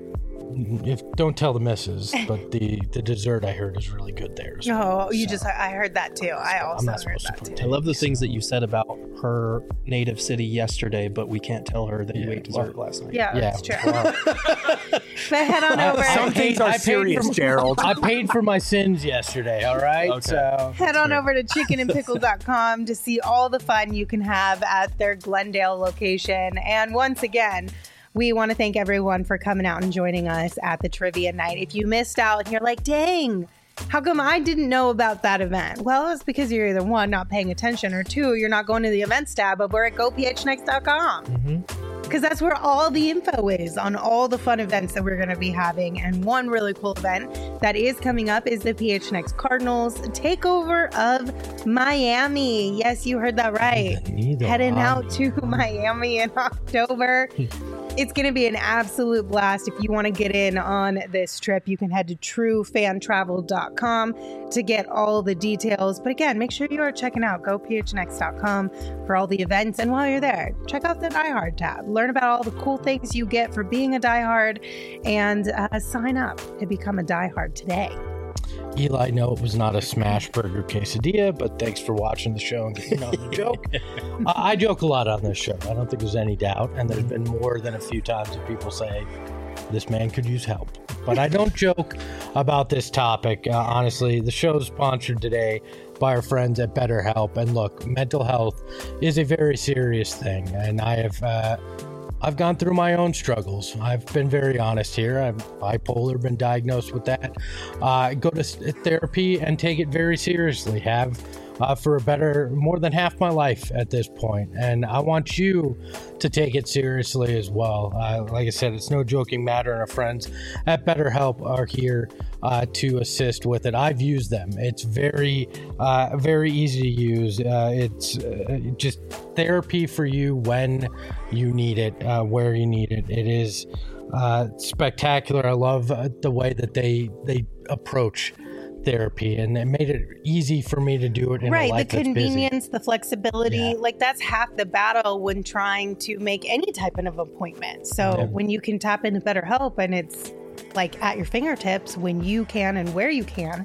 if don't tell the missus, but the, the dessert I heard is really good there. as well. Oh, you So, just, I heard that too. I I'm also not heard supposed to that put too. I love the things that you said about her native city yesterday, but we can't tell her that you Yeah, ate dessert last night. Yeah, Yeah, that's true. well, But head on over. I- Some things are I paid serious, for- Gerald. I paid for my sins yesterday. All right. Okay. So Head on over to chicken and pickle dot com to see all the fun you can have at their Glendale location. And once again, we want to thank everyone for coming out and joining us at the trivia night. If you missed out and you're like, dang, how come I didn't know about that event? Well, it's because you're either one, not paying attention, or two, you're not going to the events tab over at go p h next dot com. Because that's where all the info is on all the fun events that we're going to be having. And one really cool event that is coming up is the P H N X Cardinals takeover of Miami. Yes, you heard that right. Neither Heading one. out to Miami in October. It's going to be an absolute blast. If you want to get in on this trip, you can head to true fan travel dot com to get all the details. But again, make sure you are checking out go p h n x dot com for all the events. And while you're there, check out the Die Hard tab. Learn about all the cool things you get for being a Die Hard, and uh, sign up to become a Die Hard today. Eli, no, it was not a smash burger quesadilla, but thanks for watching the show and getting on the joke. I, I joke a lot on this show. I don't think there's any doubt. And there's been more than a few times that people say, this man could use help. But I don't joke about this topic. Uh, honestly, the show is sponsored today by our friends at BetterHelp. And look, mental health is a very serious thing. And I have... Uh, I've gone through my own struggles. I've been very honest here. I'm bipolar, been diagnosed with that. Uh, go to therapy and take it very seriously. Have uh, for a better, more than half my life at this point. And I want you to take it seriously as well. Uh, like I said, it's no joking matter, and our friends at BetterHelp are here uh, to assist with it. I've used them. It's very, uh, very easy to use. Uh, it's uh, just therapy for you when you need it, uh, where you need it. It is uh, spectacular. I love uh, the way that they they approach therapy, and it made it easy for me to do it in a Right, the life that's busy. convenience, the flexibility, Yeah. like that's half the battle when trying to make any type of appointment. So Yeah. when you can tap into BetterHelp and it's like at your fingertips when you can and where you can,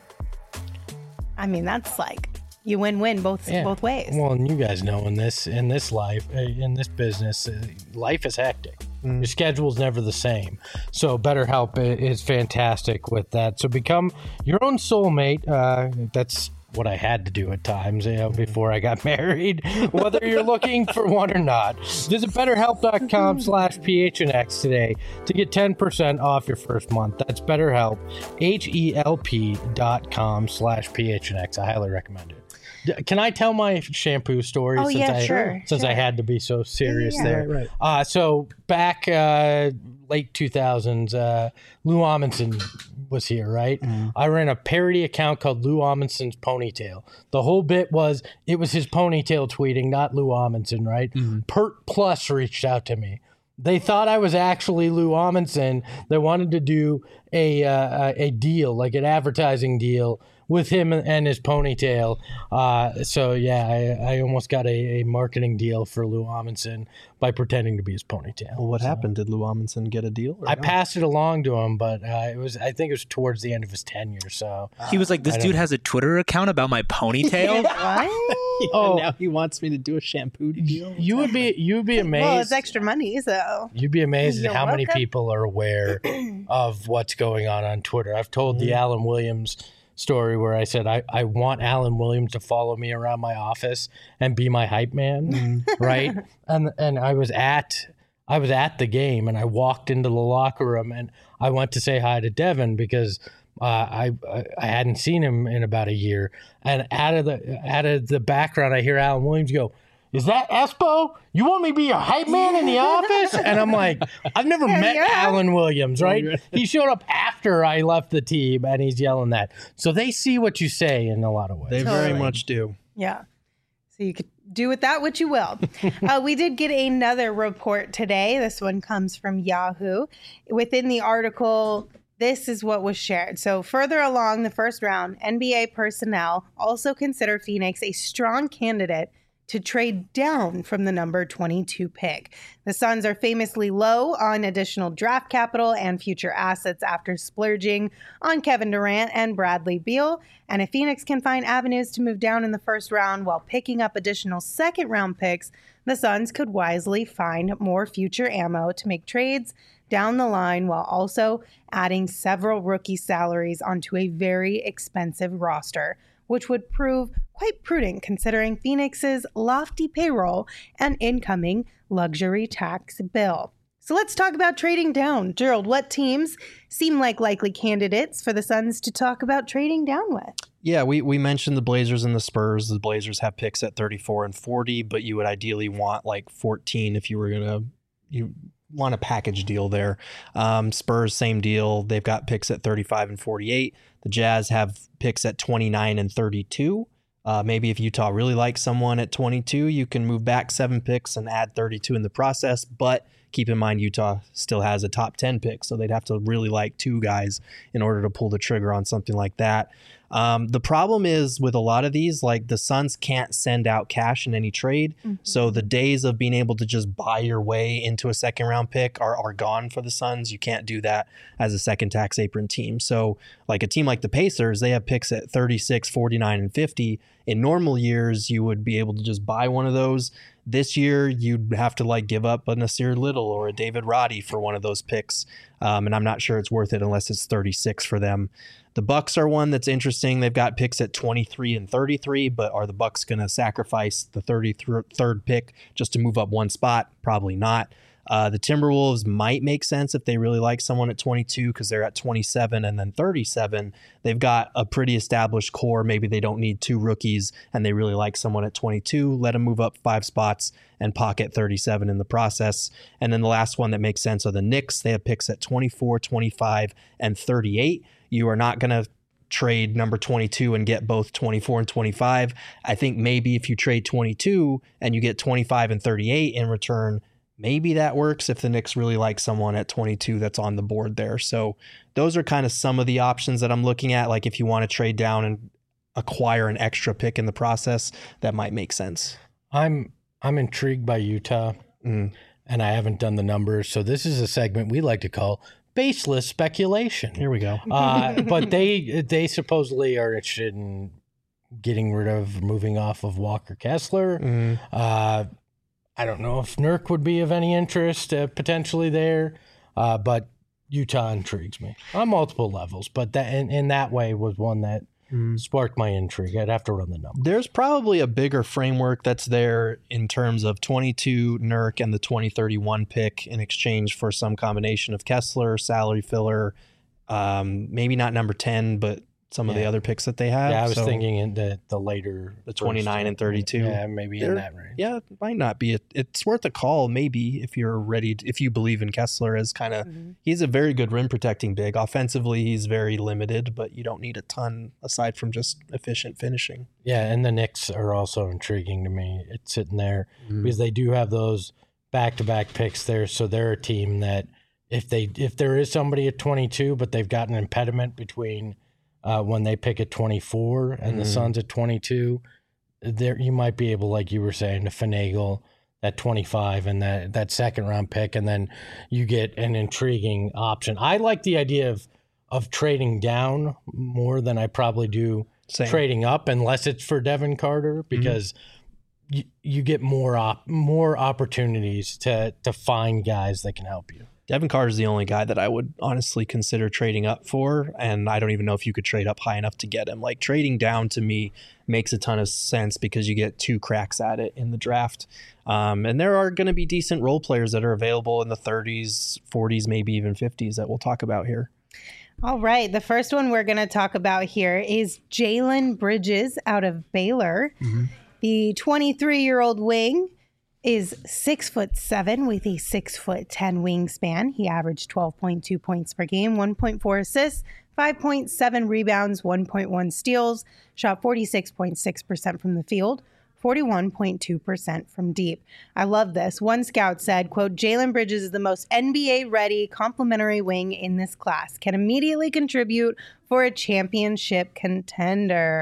I mean, that's like you win-win both Yeah. both ways. Well, and you guys know in this in this life, uh, in this business, uh, life is hectic. Your schedule's never the same. So BetterHelp i- is fantastic with that. So become your own soulmate. Uh, that's what I had to do at times, you know, before I got married, whether you're looking for one or not. Visit betterhelp.com slash PHNX today to get ten percent off your first month. That's BetterHelp, H-E-L-P dot com slash PHNX. I highly recommend it. D- Can I tell my shampoo story? Oh, since yeah, I, sure, Since I sure. had to be so serious yeah. there. Right, right. Uh, so back uh, late two thousands, uh, Lou Amundsen was here, right? I ran a parody account called Lou Amundsen's Ponytail. The whole bit was it was his ponytail tweeting, not Lou Amundsen, right? Pert Plus reached out to me. They thought I was actually Lou Amundsen. They wanted to do a uh, a deal, like an advertising deal, with him and his ponytail. Uh, so yeah, I, I almost got a, a marketing deal for Lou Amundsen by pretending to be his ponytail. Well, what So happened? Did Lou Amundsen get a deal? Or I no? passed it along to him, but uh, it was I think it was towards the end of his tenure. So He was like, this I dude don't- has a Twitter account about my ponytail. What? Oh. now he wants me to do a shampoo deal. you would be you would be amazed. Well, it's extra money, so You'd be amazed at You're how many welcome. people are aware of what's going on on Twitter. I've told the Alan Williams story where I said I, I want Alan Williams to follow me around my office and be my hype man, right? And and I was at I was at the game and I walked into the locker room and I went to say hi to Devin because uh, I I hadn't seen him in about a year. And out of the out of the background, I hear Alan Williams go, "Is that Espo? You want me to be your hype man in the office?" And I'm like, I've never met yeah. Alan Williams, right? He showed up after I left the team and he's yelling that. So they see what you say in a lot of ways. They very Totally. much do. yeah. So you could do with that what you will. uh, we did get another report today. This one comes from Yahoo. Within the article, this is what was shared. So further along the first round, N B A personnel also consider Phoenix a strong candidate to trade down from the number twenty-two pick. The Suns are famously low on additional draft capital and future assets after splurging on Kevin Durant and Bradley Beal. And if Phoenix can find avenues to move down in the first round while picking up additional second round picks, the Suns could wisely find more future ammo to make trades down the line while also adding several rookie salaries onto a very expensive roster, which would prove quite prudent considering Phoenix's lofty payroll and incoming luxury tax bill. So let's talk about trading down. Gerald, what teams seem like likely candidates for the Suns to talk about trading down with? Yeah, we, we mentioned the Blazers and the Spurs. The Blazers have picks at thirty-four and forty, but you would ideally want like fourteen if you were going to you want a package deal there. Um, Spurs, same deal. They've got picks at thirty-five and forty-eight. The Jazz have picks at twenty-nine and thirty-two. Uh, maybe if Utah really likes someone at twenty-two, you can move back seven picks and add thirty-two in the process. But keep in mind, Utah still has a top ten pick, so they'd have to really like two guys in order to pull the trigger on something like that. Um, the problem is with a lot of these, like the Suns can't send out cash in any trade. Mm-hmm. So the days of being able to just buy your way into a second round pick are, are gone for the Suns. You can't do that as a second tax apron team. So like a team like the Pacers, they have picks at thirty-six, forty-nine, and fifty. In normal years, you would be able to just buy one of those. This year, you'd have to like give up a Nasir Little or a David Roddy for one of those picks. Um, and I'm not sure it's worth it unless it's thirty-six for them. The Bucks are one that's interesting. They've got picks at twenty-three and thirty-three, but are the Bucks going to sacrifice the thirty-third pick just to move up one spot? Probably not. Uh, the Timberwolves might make sense if they really like someone at twenty-two because they're at twenty-seven and then thirty-seven. They've got a pretty established core. Maybe they don't need two rookies and they really like someone at twenty-two. Let them move up five spots and pocket thirty-seven in the process. And then the last one that makes sense are the Knicks. They have picks at twenty-four, twenty-five, and thirty-eight. You are not going to trade number twenty-two and get both twenty-four and twenty-five. I think maybe if you trade twenty-two and you get twenty-five and thirty-eight in return, maybe that works if the Knicks really like someone at twenty-two that's on the board there. So those are kind of some of the options that I'm looking at. Like if you want to trade down and acquire an extra pick in the process, that might make sense. I'm I'm intrigued by Utah, mm. and I haven't done the numbers. So this is a segment we like to call baseless speculation. Here we go. uh, but they they supposedly are interested in getting rid of, moving off of Walker Kessler. Mm. Uh, I don't know if Nurk would be of any interest uh, potentially there, uh, but Utah intrigues me on multiple levels. But that in, in that way was one that mm. sparked my intrigue. I'd have to run the numbers. There's probably a bigger framework that's there in terms of twenty-two Nurk and the twenty thirty-one pick in exchange for some combination of Kessler, salary filler, um, maybe not number ten, but some yeah. of the other picks that they have. Yeah, I was so, thinking in the, the later. The twenty-nine and thirty-two. Yeah, maybe They're, in that range. Yeah, it might not be. A, it's worth a call maybe if you're ready, to, if you believe in Kessler as kind of, mm-hmm. he's a very good rim protecting big. Offensively, he's very limited, but you don't need a ton aside from just efficient finishing. Yeah, and the Knicks are also intriguing to me. It's sitting there mm-hmm. because they do have those back-to-back picks there, so they're a team that if they if there is somebody at twenty-two, but they've got an impediment between Uh, when they pick at twenty-four and mm. the Suns at twenty-two, there you might be able, like you were saying, to finagle that twenty-five and that, that second round pick, and then you get an intriguing option. I like the idea of of trading down more than I probably do Same. trading up, unless it's for Devin Carter, because mm-hmm. you, you get more op- more opportunities to to find guys that can help you. Devin Carter is the only guy that I would honestly consider trading up for, and I don't even know if you could trade up high enough to get him. Like trading down to me makes a ton of sense because you get two cracks at it in the draft. Um, and there are going to be decent role players that are available in the thirties, forties, maybe even fifties that we'll talk about here. All right. The first one we're going to talk about here is Jalen Bridges out of Baylor. Mm-hmm. The twenty-three-year-old wing is six foot seven with a six foot ten wingspan. He averaged twelve point two points per game, one point four assists, five point seven rebounds, one point one steals, shot forty-six point six percent from the field, forty-one point two percent from deep. I love this. One scout said, quote, Jalen Bridges is the most N B A-ready complementary wing in this class. Can immediately contribute for a championship contender.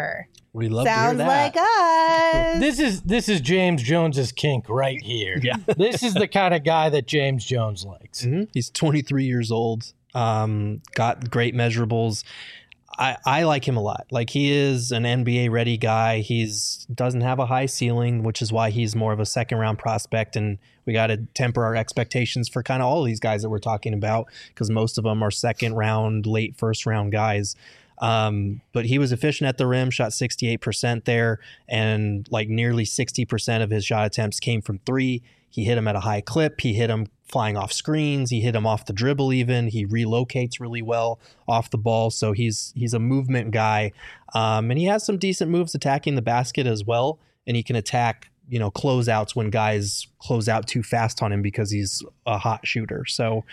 We love Sounds to hear that. like us. This is this is James Jones's kink right here. Yeah. This is the kind of guy that James Jones likes. Mm-hmm. He's twenty-three years old. Um, got great measurables. I, I like him a lot. Like, he is an N B A ready guy. He's doesn't have a high ceiling, which is why he's more of a second round prospect. And we got to temper our expectations for kind of all these guys that we're talking about, because most of them are second round, late first round guys. Um, but he was efficient at the rim, shot sixty-eight percent there, and like nearly sixty percent of his shot attempts came from three. He hit him at a high clip. He hit him flying off screens. He hit him off the dribble even. He relocates really well off the ball. So he's he's a movement guy. Um, and he has some decent moves attacking the basket as well. And he can attack, you know, closeouts when guys close out too fast on him because he's a hot shooter. So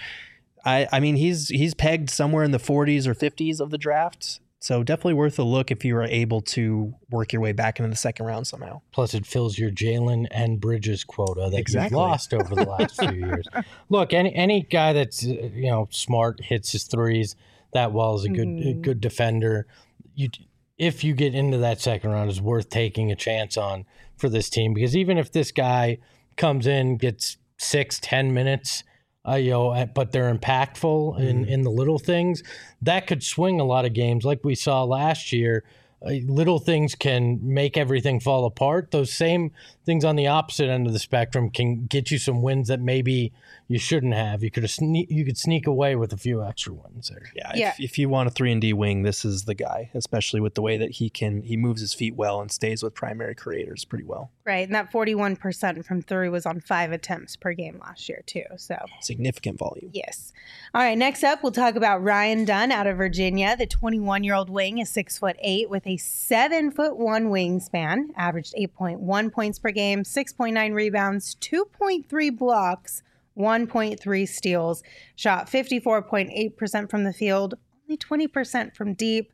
I, I mean, he's he's pegged somewhere in the forties or fifties of the draft. So definitely worth a look if you are able to work your way back into the second round somehow. Plus, it fills your Jalen and Bridges quota that Exactly. you've lost over the last few years. Look, any any guy that's uh, you know smart, hits his threes that well, is a good Mhm. a good defender. You, if you get into that second round, is worth taking a chance on for this team, because even if this guy comes in, gets six, ten minutes. Uh, you know, but they're impactful in, in the little things. That could swing a lot of games, like we saw last year. Uh, little things can make everything fall apart. Those same things on the opposite end of the spectrum can get you some wins that maybe you shouldn't have. You could have sne- you could sneak away with a few extra wins there. Yeah, Yeah. If, if you want a three and D wing, this is the guy, especially with the way that he can he moves his feet well and stays with primary creators pretty well. Right. And that forty-one percent from three was on five attempts per game last year, too. So, Significant volume. yes. All right. Next up, we'll talk about Ryan Dunn out of Virginia. The twenty-one year old wing is six foot eight with a seven foot one wingspan, averaged eight point one points per game, six point nine rebounds, two point three blocks, one point three steals, shot fifty-four point eight percent from the field, only twenty percent from deep.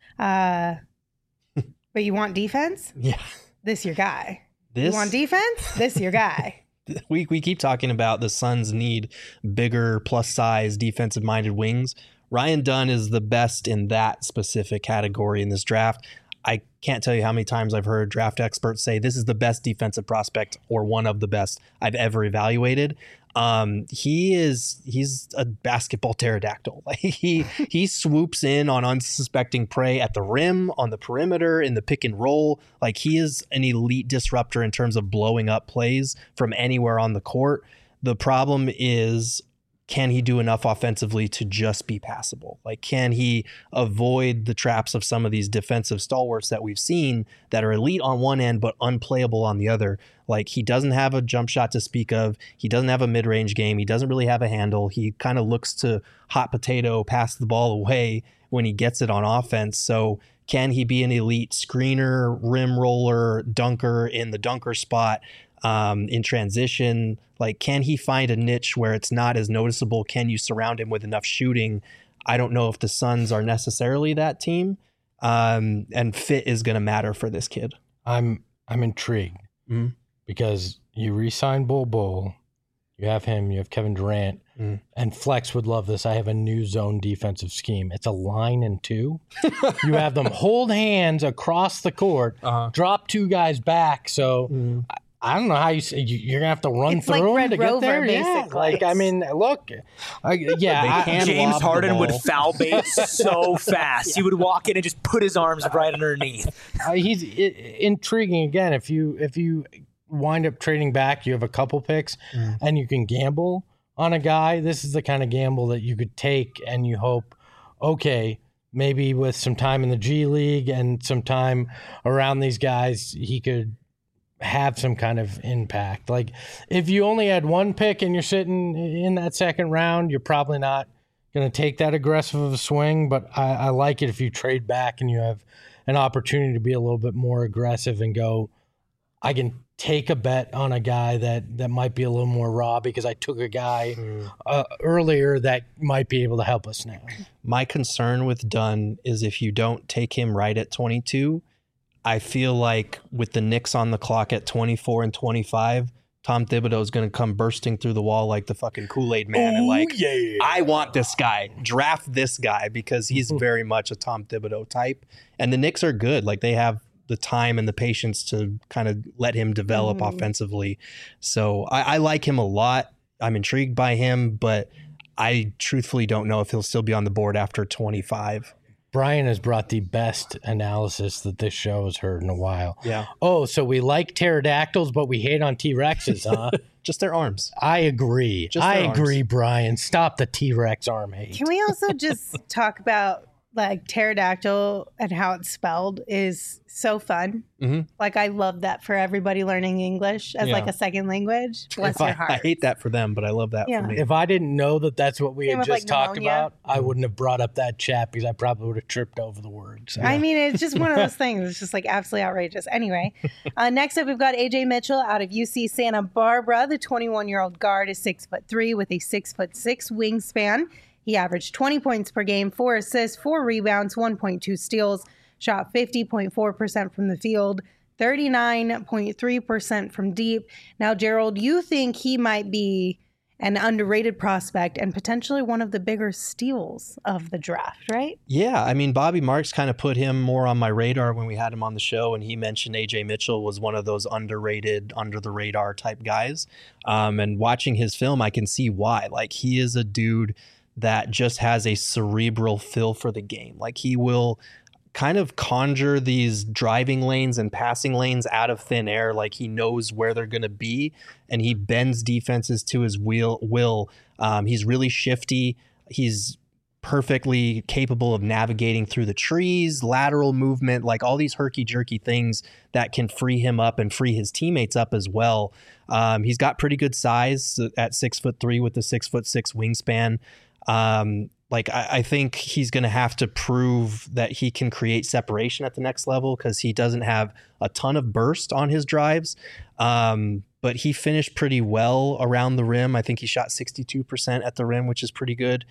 Uh, but you want defense? Yeah. This your guy. This You want defense? This your guy. we we keep talking about the Suns need bigger, plus size, defensive minded wings. Ryan Dunn is the best in that specific category in this draft. I can't tell you how many times I've heard draft experts say this is the best defensive prospect or one of the best I've ever evaluated. Um, he is he's a basketball pterodactyl. Like he he swoops in on unsuspecting prey at the rim, on the perimeter, in the pick and roll. Like, he is an elite disruptor in terms of blowing up plays from anywhere on the court. The problem is, can he do enough offensively to just be passable? Like, can he avoid the traps of some of these defensive stalwarts that we've seen that are elite on one end but unplayable on the other? Like, he doesn't have a jump shot to speak of. He doesn't have a mid-range game. He doesn't really have a handle. He kind of looks to hot potato, pass the ball away when he gets it on offense. So can he be an elite screener, rim roller, dunker in the dunker spot? Um, in transition, like, can he find a niche where it's not as noticeable? Can you surround him with enough shooting? I don't know if the Suns are necessarily that team, um, and fit is going to matter for this kid. I'm I'm intrigued Mhm. because you re-sign Bol Bol, you have him, you have Kevin Durant, Mm. and Flex would love this. I have a new zone defensive scheme. It's a line and two. You have them hold hands across the court, Uh-huh. drop two guys back. So Mm. I, I don't know how you say you, you're gonna have to run It's through like them Red to get Rover, there. Yeah, basically. like I mean, look, I, yeah, They I- can James lob the Harden would ball. foul bait so fast. He would walk in and just put his arms right underneath. Uh, he's I- intriguing again. If you if you wind up trading back, you have a couple picks, Mm. and you can gamble on a guy. This is the kind of gamble that you could take, and you hope, okay, maybe with some time in the G League and some time around these guys, he could have some kind of impact. Like, if you only had one pick and you're sitting in that second round, you're probably not going to take that aggressive of a swing. But I, I like it if you trade back and you have an opportunity to be a little bit more aggressive and go, I can take a bet on a guy that, that might be a little more raw because I took a guy uh, earlier that might be able to help us now. My concern with Dunn is if you don't take him right at twenty-two, I feel like with the Knicks on the clock at twenty-four and twenty-five, Tom Thibodeau is going to come bursting through the wall like the fucking Kool-Aid man and like, yeah. I want this guy, draft this guy, because he's very much a Tom Thibodeau type. And the Knicks are good. Like, they have the time and the patience to kind of let him develop mm. offensively. So I, I like him a lot. I'm intrigued by him, but I truthfully don't know if he'll still be on the board after twenty-five. Brian has brought the best analysis that this show has heard in a while. Yeah. Oh, so we like pterodactyls, but we hate on T-Rexes, huh? Just their arms. I agree. Just I arms. agree, Brian. Stop the T-Rex arm hate. Can we also just talk about like pterodactyl and how it's spelled is so fun. Mm-hmm. Like I love that for everybody learning English as Yeah. like a second language. Bless If your I, heart. I hate that for them, but I love that Yeah. for me. If I didn't know that that's what we Same had with, just like, talked pneumonia. about, I wouldn't have brought up that chat because I probably would have tripped over the words. I mean, it's just one of those things. It's just like absolutely outrageous. Anyway, uh, next up, we've got A J Mitchell out of U C Santa Barbara. The twenty-one-year-old guard is six foot three with a six foot six wingspan. He averaged twenty points per game, four assists, four rebounds, one point two steals, shot fifty point four percent from the field, thirty-nine point three percent from deep. Now, Gerald, you think he might be an underrated prospect and potentially one of the bigger steals of the draft, right? Yeah, I mean, Bobby Marks kind of put him more on my radar when we had him on the show, and he mentioned A J Mitchell was one of those underrated, under the radar type guys. Um, and watching his film, I can see why. Like, he is a dude that just has a cerebral feel for the game. Like, he will kind of conjure these driving lanes and passing lanes out of thin air. Like, he knows where they're going to be, and he bends defenses to his will. will. Um, he's really shifty. He's perfectly capable of navigating through the trees, lateral movement, like all these herky-jerky things that can free him up and free his teammates up as well. Um, he's got pretty good size at six foot three with the six foot six wingspan. Um, like I, I think he's going to have to prove that he can create separation at the next level because he doesn't have a ton of burst on his drives. Um, but he finished pretty well around the rim. I think he shot sixty-two percent at the rim, which is pretty good.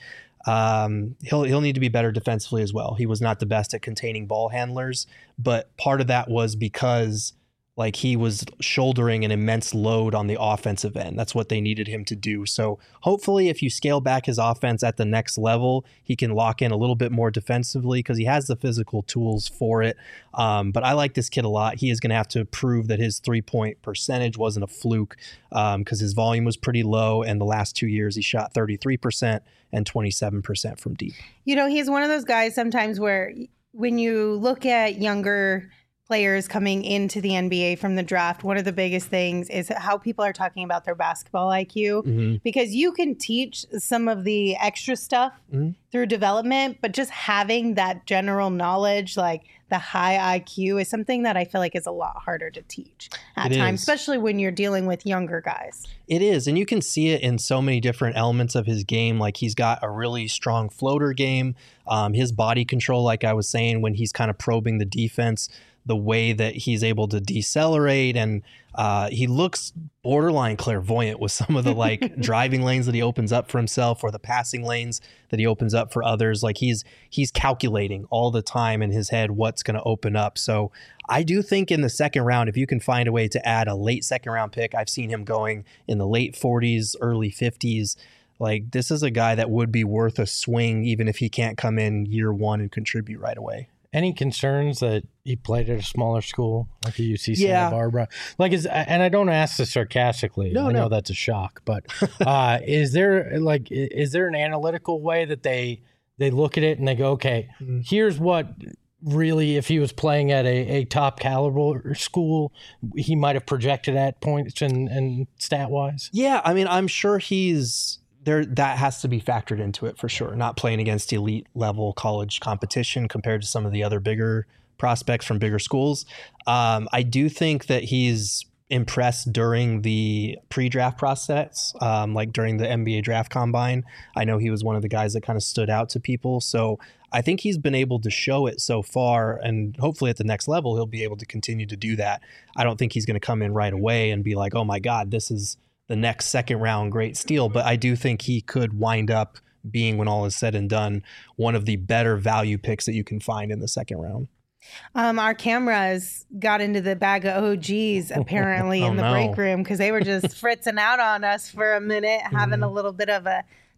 Um, he'll he'll need to be better defensively as well. He was not the best at containing ball handlers, but part of that was because like he was shouldering an immense load on the offensive end. That's what they needed him to do. So hopefully if you scale back his offense at the next level, he can lock in a little bit more defensively because he has the physical tools for it. Um, but I like this kid a lot. He is going to have to prove that his three-point percentage wasn't a fluke because um, his volume was pretty low. And the last two years, he shot thirty-three percent and twenty-seven percent from deep. You know, he's one of those guys sometimes where when you look at younger players coming into the N B A from the draft, one of the biggest things is how people are talking about their basketball I Q, Mm-hmm. because you can teach some of the extra stuff Mm-hmm. through development, but just having that general knowledge, like the high I Q, is something that I feel like is a lot harder to teach at It times, is. especially when you're dealing with younger guys. It is, and you can see it in so many different elements of his game. Like he's got a really strong floater game. Um, his body control, like I was saying, when he's kind of probing the defense, the way that he's able to decelerate, and uh, he looks borderline clairvoyant with some of the like driving lanes that he opens up for himself or the passing lanes that he opens up for others. Like he's he's calculating all the time in his head what's going to open up. So I do think in the second round, if you can find a way to add a late second round pick, I've seen him going in the late forties, early fifties. Like this is a guy that would be worth a swing even if he can't come in year one and contribute right away. Any concerns that he played at a smaller school like the U C Yeah. Santa Barbara? Like, is and I don't ask this sarcastically. No, I know no. that's a shock, but uh, is there like i- is there an analytical way that they they look at it and they go, okay, Mhm. here's what really, if he was playing at a, a top caliber school, he might have projected at points and, and stat wise? Yeah, I mean, I'm sure he's there. That has to be factored into it for sure. Not playing against elite level college competition compared to some of the other bigger prospects from bigger schools. Um, I do think that he's impressed during the pre-draft process, um, like during the N B A draft combine. I know he was one of the guys that kind of stood out to people. So I think he's been able to show it so far, and hopefully at the next level, he'll be able to continue to do that. I don't think he's going to come in right away and be like, oh my God, this is the next second round great steal. But I do think he could wind up being, when all is said and done, one of the better value picks that you can find in the second round. Um, our cameras got into the bag of O Gs apparently Oh, in the no. break room because they were just fritzing out on us for a minute, having a little bit of a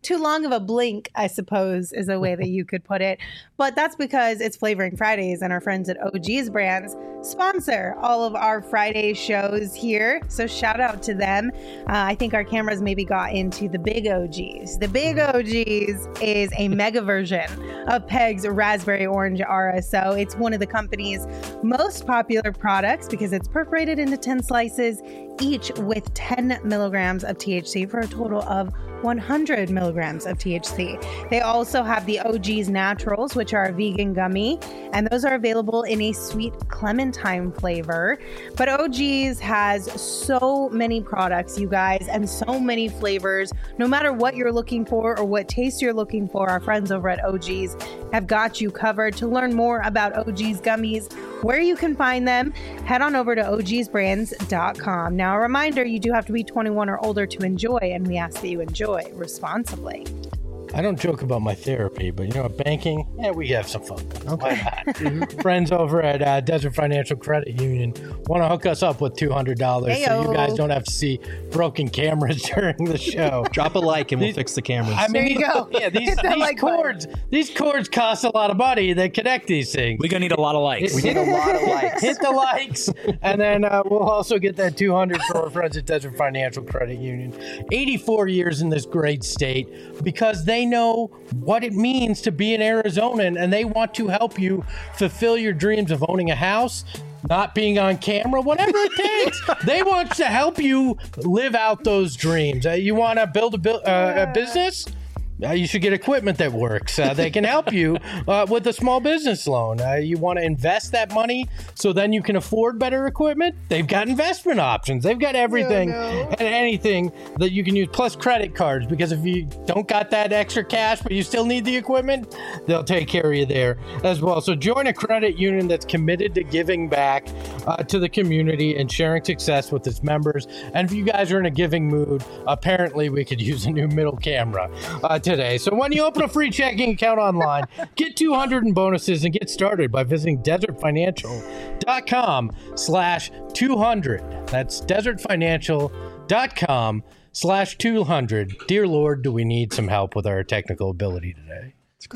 too long of a blink, I suppose, is a way that you could put it. But that's because it's Flavoring Fridays, and our friends at O G's Brands sponsor all of our Friday shows here. So shout out to them. Uh, I think our cameras maybe got into the Big O Gs. The Big O Gs is a mega version of Peg's Raspberry Orange R S O. It's one of the company's most popular products because it's perforated into ten slices, each with ten milligrams of T H C for a total of one hundred milligrams of T H C. They also have the O G's Naturals, which are a vegan gummy, and those are available in a sweet clementine flavor. But O G's has so many products, you guys, and so many flavors. No matter what you're looking for or what taste you're looking for, our friends over at O G's have got you covered. To learn more about O G's gummies, where you can find them, head on over to O Gs brands dot com. Now, a reminder, you do have to be twenty-one or older to enjoy, and we ask that you enjoy responsibly. I don't joke about my therapy, but you know, banking, yeah, we have some fun. Okay. Friends over at uh, Desert Financial Credit Union want to hook us up with two hundred dollars so you guys don't have to see broken cameras during the show. Drop a like and we'll These- fix the cameras. I mean, There you go. Yeah, these, Hit that these like cords, these cords cost a lot of money. They connect these things. We're going to need a lot of likes. We need a lot of likes. Hit the likes, and then uh, we'll also get that two hundred for our friends at Desert Financial Credit Union. eighty-four years in this great state because they know what it means to be an Arizonan, and they want to help you fulfill your dreams of owning a house, not being on camera, whatever it takes. They want to help you live out those dreams. Uh, you want to build a, bu- uh, a business? Uh, you should get equipment that works. Uh, they can help you uh, with a small business loan. Uh, you want to invest that money so then you can afford better equipment? They've got investment options. They've got everything and anything that you can use, plus credit cards, because if you don't got that extra cash but you still need the equipment, they'll take care of you there as well. So join a credit union that's committed to giving back uh, to the community and sharing success with its members. And if you guys are in a giving mood, apparently we could use a new middle camera uh, today. So when you open a free checking account online, get two hundred in bonuses and get started by visiting desert financial dot com slash two hundred. That's desert financial dot com slash two hundred. Dear Lord, do we need some help with our technical ability today?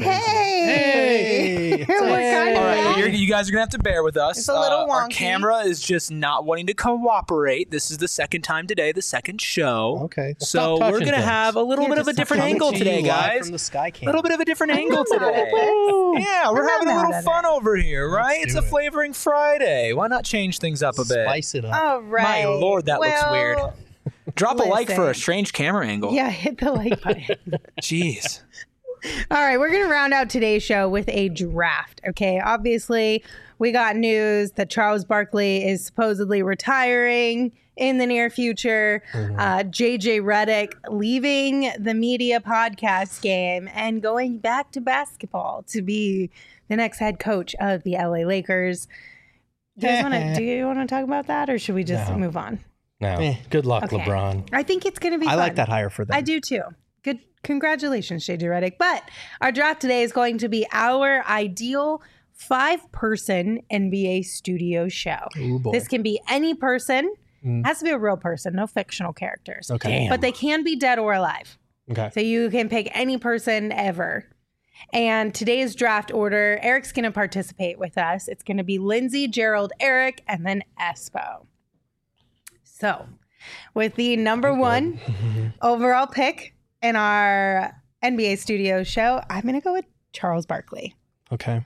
Hey! Hey! We're kind of All right, back. you're, you guys are gonna have to bear with us. It's a little Uh, Our wonky. camera is just not wanting to cooperate. This is the second time today, the second show. Okay. So Stop we're touching gonna things. have a little Yeah, bit of a just different stop angle Coming to today, you live guys. From the sky A cam. little bit of a different angle not mad at today. this. Yeah, we're I'm having a not little mad at fun it. over here, right? It's do a it. flavoring Friday. Why not change things up a bit? Spice it up. All right. My lord, that looks Well, weird. Drop a like for a listen. strange camera angle. Yeah, hit the like button. Jeez. All right, we're going to round out today's show with a draft. Okay, obviously, we got news that Charles Barkley is supposedly retiring in the near future. Uh, J J Redick leaving the media podcast game and going back to basketball to be the next head coach of the L A Lakers. Do you guys want to do you want to talk about that, or should we just No. move on? No. Eh. Good luck, Okay. LeBron. I think it's going to be. I fun. like that hire for them. I do too. Good. Congratulations, J J Redick. But our draft today is going to be our ideal five-person N B A studio show. Ooh, boy. This can be any person. Mm. Has to be a real person, no fictional characters. Okay. Damn. But they can be dead or alive. Okay. So you can pick any person ever. And today's draft order, Eric's going to participate with us. It's going to be Lindsay, Gerald, Eric, and then Espo. So, with the number one overall pick in our N B A studio show, I'm going to go with Charles Barkley. Okay.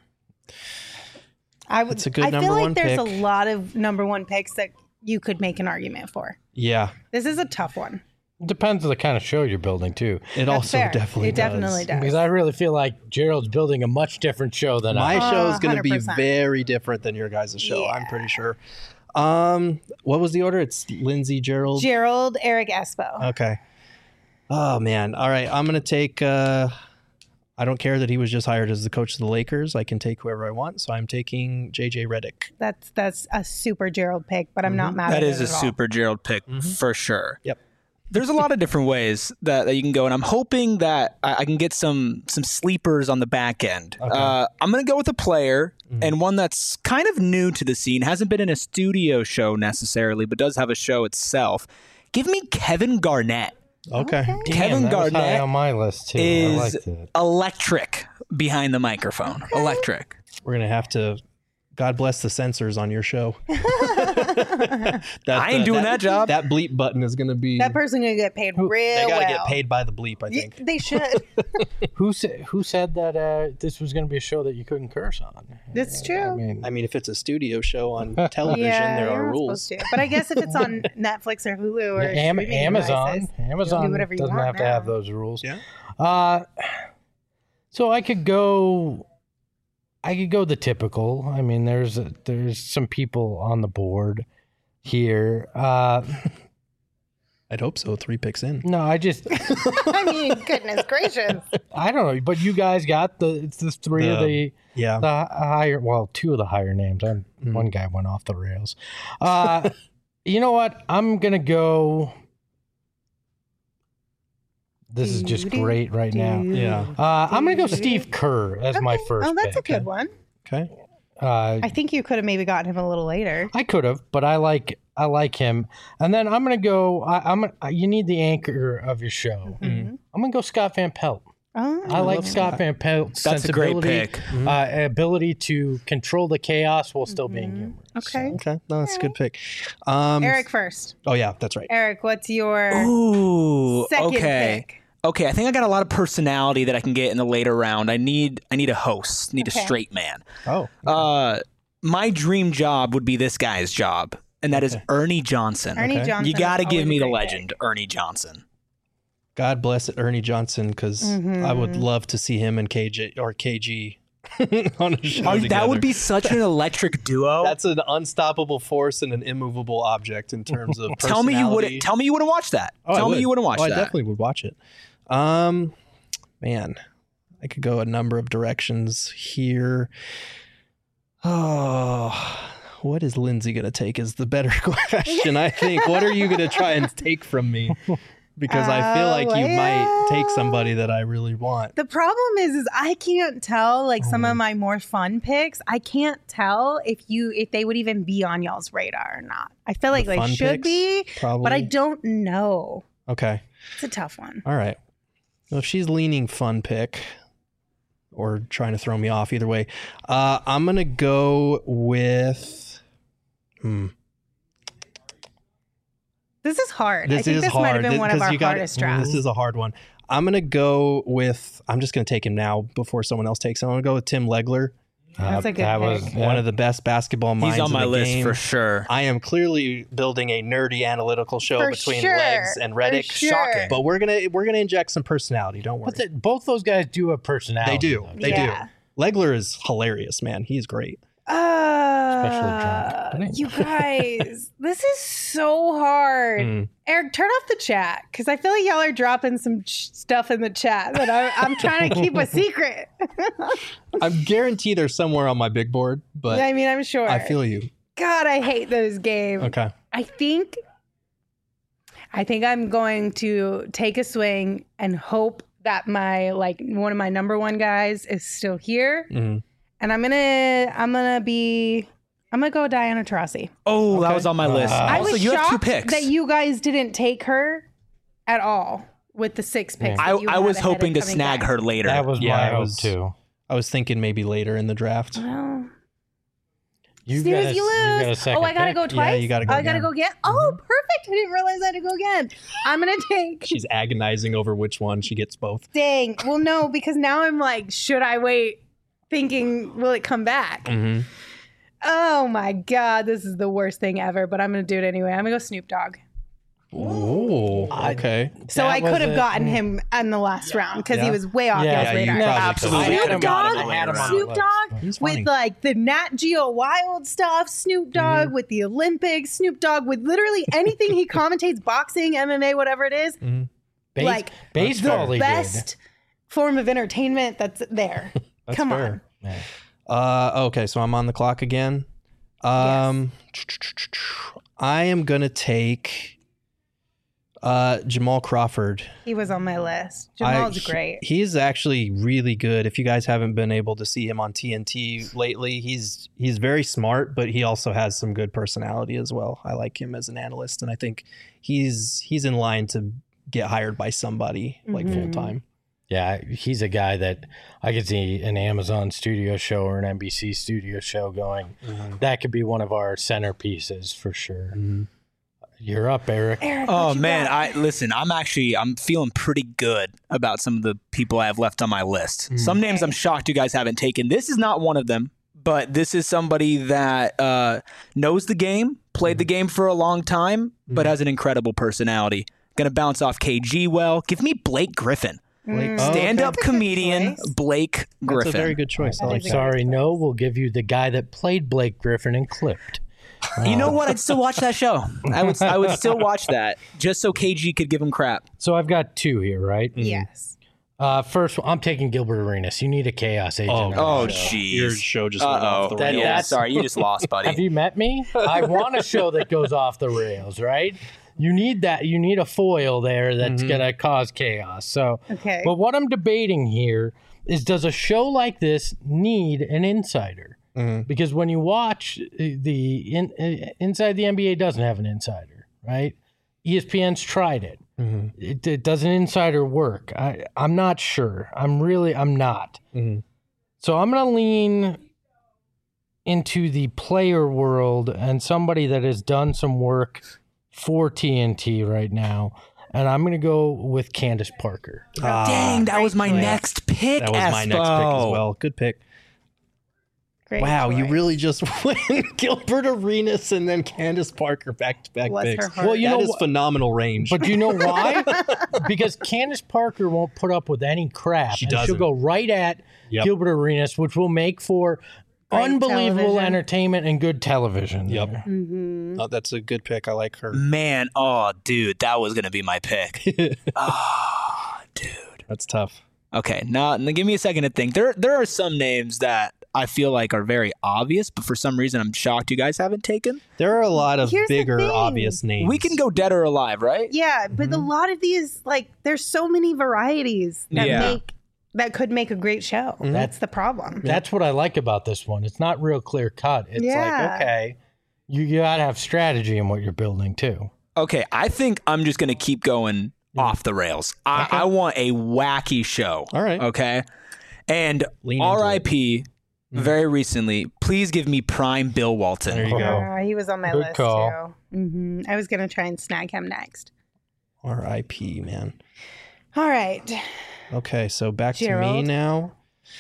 I would. That's a good I feel number like one there's pick. a lot of number one picks that you could make an argument for. Yeah. This is a tough one. Depends on the kind of show you're building, too. It That's also fair. definitely It definitely does. Because I really feel like Gerald's building a much different show than My I. show Uh, is going to be one hundred percent. very different than your guys' show. I'm Yeah. pretty sure. Um, what was the order? It's Lindsay, Gerald. Gerald, Eric, Espo. Okay. Oh man. All right. I'm gonna take. Uh, I don't care that he was just hired as the coach of the Lakers. I can take whoever I want. So I'm taking J J Redick. That's that's a super Gerald pick, but I'm not mad That at is it a at all. super Gerald pick Mhm. for sure. Yep. There's a lot of different ways that, that you can go, and I'm hoping that I, I can get some some sleepers on the back end. Okay. Uh, I'm going to go with a player Mhm. and one that's kind of new to the scene, hasn't been in a studio show necessarily, but does have a show itself. Give me Kevin Garnett. Okay. Damn, Kevin that was high Garnett on my list too. I is liked it. electric behind the microphone. Electric. We're gonna have to. God bless the censors on your show. That, I ain't doing that job. That bleep button is gonna be. That person gonna get paid real they gotta well. get paid by the bleep. I Y- think. They should. Who said who said that uh, this was going to be a show that you couldn't curse on? That's true. I mean, I mean, if it's a studio show on television, yeah, there you're are not ruls. supposed to. But I guess if it's on Netflix or Hulu or Am- streaming Amazon, devices, you Amazon do whatever you doesn't want have to now. have those rules. Yeah. Uh, so I could go. I could go the typical. I mean, there's a, there's some people on the board here. Uh, I'd hope so. Three picks in. no, I just I mean, goodness gracious. I don't know. But you guys got the it's the three of The- the Yeah. the higher. Well, two of the higher names. I'm, Mhm. One guy went off the rails. Uh, you know what? I'm gonna go. This is just Doo-doo, great right now. Dude. Yeah. Uh, I'm gonna go Steve Kerr as my Okay. first. Oh, that's pick. a good one. Okay. Uh, I think you could have maybe gotten him a little later. I could have, but I like I like him. And then I'm gonna go. I, I'm. Gonna, you need the anchor of your show. Mhm. I'm gonna go Scott Van Pelt. Oh, I like love Scott Scott. Van Pelt's That's a great sensibility, pick. uh, ability to control the chaos while still being Mhm. humorous. Okay. Okay. No, that's a good pick. Um, Eric first. Oh yeah, that's right. Eric, what's your Ooh. second Okay. pick? Okay, I think I got a lot of personality that I can get in the later round. I need I need a host, need Okay. a straight man. Oh. Uh, my dream job would be this guy's job, and that is Ernie Johnson. Ernie Okay. Johnson. You got to is give always me a the great legend, pick. Ernie Johnson. God bless it, Ernie Johnson, because I would Mhm. love to see him and K J or K G on a show Oh, that together. would be such an electric duo. That's an unstoppable force and an immovable object in terms of tell me you personality. wouldn't. Tell me you wouldn't watch that. Oh, I tell me would. you wouldn't watch oh, that. I definitely would watch it. Um, man, I could go a number of directions here. Oh, what is Lindsay going to take is the better question, I think. What are you going to try and take from me? Because I feel like you might take somebody that I really want. The problem is, is I can't tell like some Mm. of my more fun picks. I can't tell if you if they would even be on y'all's radar or not. I feel like The they fun should picks, be, Probably. but I don't know. Okay. It's a tough one. All right. Well, if she's leaning fun pick or trying to throw me off, either way, uh, I'm going to go with. Hmm. This is hard. This I think is this hard. might have been This- one of 'cause our you gotta- hardest drafts. This is a hard one. I'm going to go with. I'm just going to take him now before someone else takes him. I'm going to go with Tim Legler, That's a good that was pick. yeah. one of the best basketball minds He's on in my the list game. for sure. I am clearly building a nerdy analytical show For between sure. Legs and For Reddick. sure. Shocking. But we're gonna we're gonna inject some personality. Don't worry. But the, both those guys do have personality. They do. though. They Yeah. do. Legler is hilarious, man. He's great. Uh, drunk. you guys, this is so hard. Mm. Eric, turn off the chat because I feel like y'all are dropping some ch- stuff in the chat that I, I'm trying to keep a secret. I'm guaranteed they're somewhere on my big board, but I mean, I'm sure. I feel you. God, I hate those games. Okay. I think, I think I'm going to take a swing and hope that my like one of my number one guys is still here, Mhm. and I'm gonna I'm gonna be I'm gonna go Diana Taurasi. Oh, that Okay. was on my list. Uh, I also, was you have two shocked picks. that you guys didn't take her at all with the six picks. I, that you I had was ahead of hoping to coming snag back. her later. That was Yeah, my I hope was- too. I was thinking maybe later in the draft. Well, You snooze, got a- you you got a lose. second Oh, I gotta pick? go Yeah, twice. you gotta go I gotta again. go again. Oh, perfect! I didn't realize I had to go again. I'm gonna take. She's agonizing over which one. She gets both. Dang. Well, no, because now I'm like, should I wait? Thinking, will it come back? Mm-hmm. Oh my God, this is the worst thing ever, but I'm going to do it anyway. I'm going to go Snoop Dogg. Oh, okay. So That I could was have a- gotten him in the last round because Yeah. he was way off Yeah, y'all's yeah, you radar. probably Absolutely. could. Snoop I had him Dogg, on my radar. Snoop Dogg He's funny. with like the Nat Geo Wild stuff, Snoop Dogg with the Olympics, Snoop Dogg with literally anything he commentates, boxing, M M A, whatever it is, Base- like baseball. the he best form of entertainment that's there. That's Come fair. on. did. Uh, okay, so I'm on the clock again. Um, I am gonna take uh, Jamal Crawford. He was on my list. I- Jamal's he- great. He's actually really good. If you guys haven't been able to see him on T N T lately, he's he's very smart, but he also has some good personality as well. I like him as an analyst, and I think he's he's in line to get hired by somebody like Mhm. full time. Yeah, he's a guy that I could see an Amazon studio show or an N B C studio show going. Mm-hmm. That could be one of our centerpieces for sure. Mm-hmm. You're up, Eric. Eric, Oh what you man, got? I listen. I'm actually I'm feeling pretty good about some of the people I have left on my list. Some names I'm shocked you guys haven't taken. This is not one of them, but this is somebody that uh, knows the game, played the game for a long time, but has an incredible personality. Gonna bounce off K G well. Give me Blake Griffin, Blake, Mm. oh, okay. stand-up That's a good comedian choice. Blake Griffin. That's a very good choice. I That like is a that. Sorry, no, we'll give you the guy that played Blake Griffin and Clipped. You know what? I'd still watch that show. I would. I would still watch that just so K G could give him crap. So I've got two here, right? Yes. Uh, first, I'm taking Gilbert Arenas. You need a chaos agent. Oh, on Oh, the show. jeez. Your show just went Uh-oh. off the That- rails. Yeah, that's- sorry, you just lost, Have buddy. you met me? I want a show that goes off the rails, right? You need that. You need a foil there that's Mhm. gonna cause chaos. So, Okay. but what I'm debating here is, does a show like this need an insider? Mhm. Because when you watch uh, the in, uh, inside the N B A doesn't have an insider, right? E S P N's tried it. Mhm. It, it does an insider work? I, I'm not sure. I'm really, I'm not. Mhm. So I'm going to lean into the player world and somebody that has done some work for T N T right now. And I'm going to go with Candace Parker. Ah, Dang, that was my Great choice. next pick. that was my next pick as Espo. well. Good pick. Great Wow, you choice. really just went Gilbert Arenas and then Candace Parker back to back Bless picks. her heart. Well, you That know is what- phenomenal range. But do you know why? Because Candace Parker won't put up with any crap. She and she'll doesn't. go right at Yep. Gilbert Arenas, which will make for Great unbelievable television. entertainment and good television. Yep. there. Mhm. Oh, that's a good pick. I like her. Man, oh, dude, that was gonna be my pick. Oh, dude. That's tough. Okay, now, now give me a second to think. There, there are some names that I feel like are very obvious, but for some reason I'm shocked you guys haven't taken. There are a lot of Here's the bigger, thing. obvious names. We can go dead or alive, right? Yeah, but a lot of these, like, there's so many varieties that Yeah. make that could make a great show. Mhm. That's the problem. That's what I like about this one. It's not real clear cut. It's Yeah. like, okay, you, you got to have strategy in what you're building too. Okay, I think I'm just gonna keep going off the rails. I, Okay. I want a wacky show. All right. Okay, and Lean into R I P very recently. Please give me prime Bill Walton. There you go. Uh, he was on my Good list call. too. hmm I was gonna try and snag him next. R I P, man. All right. Okay, so back to me Gerald? now.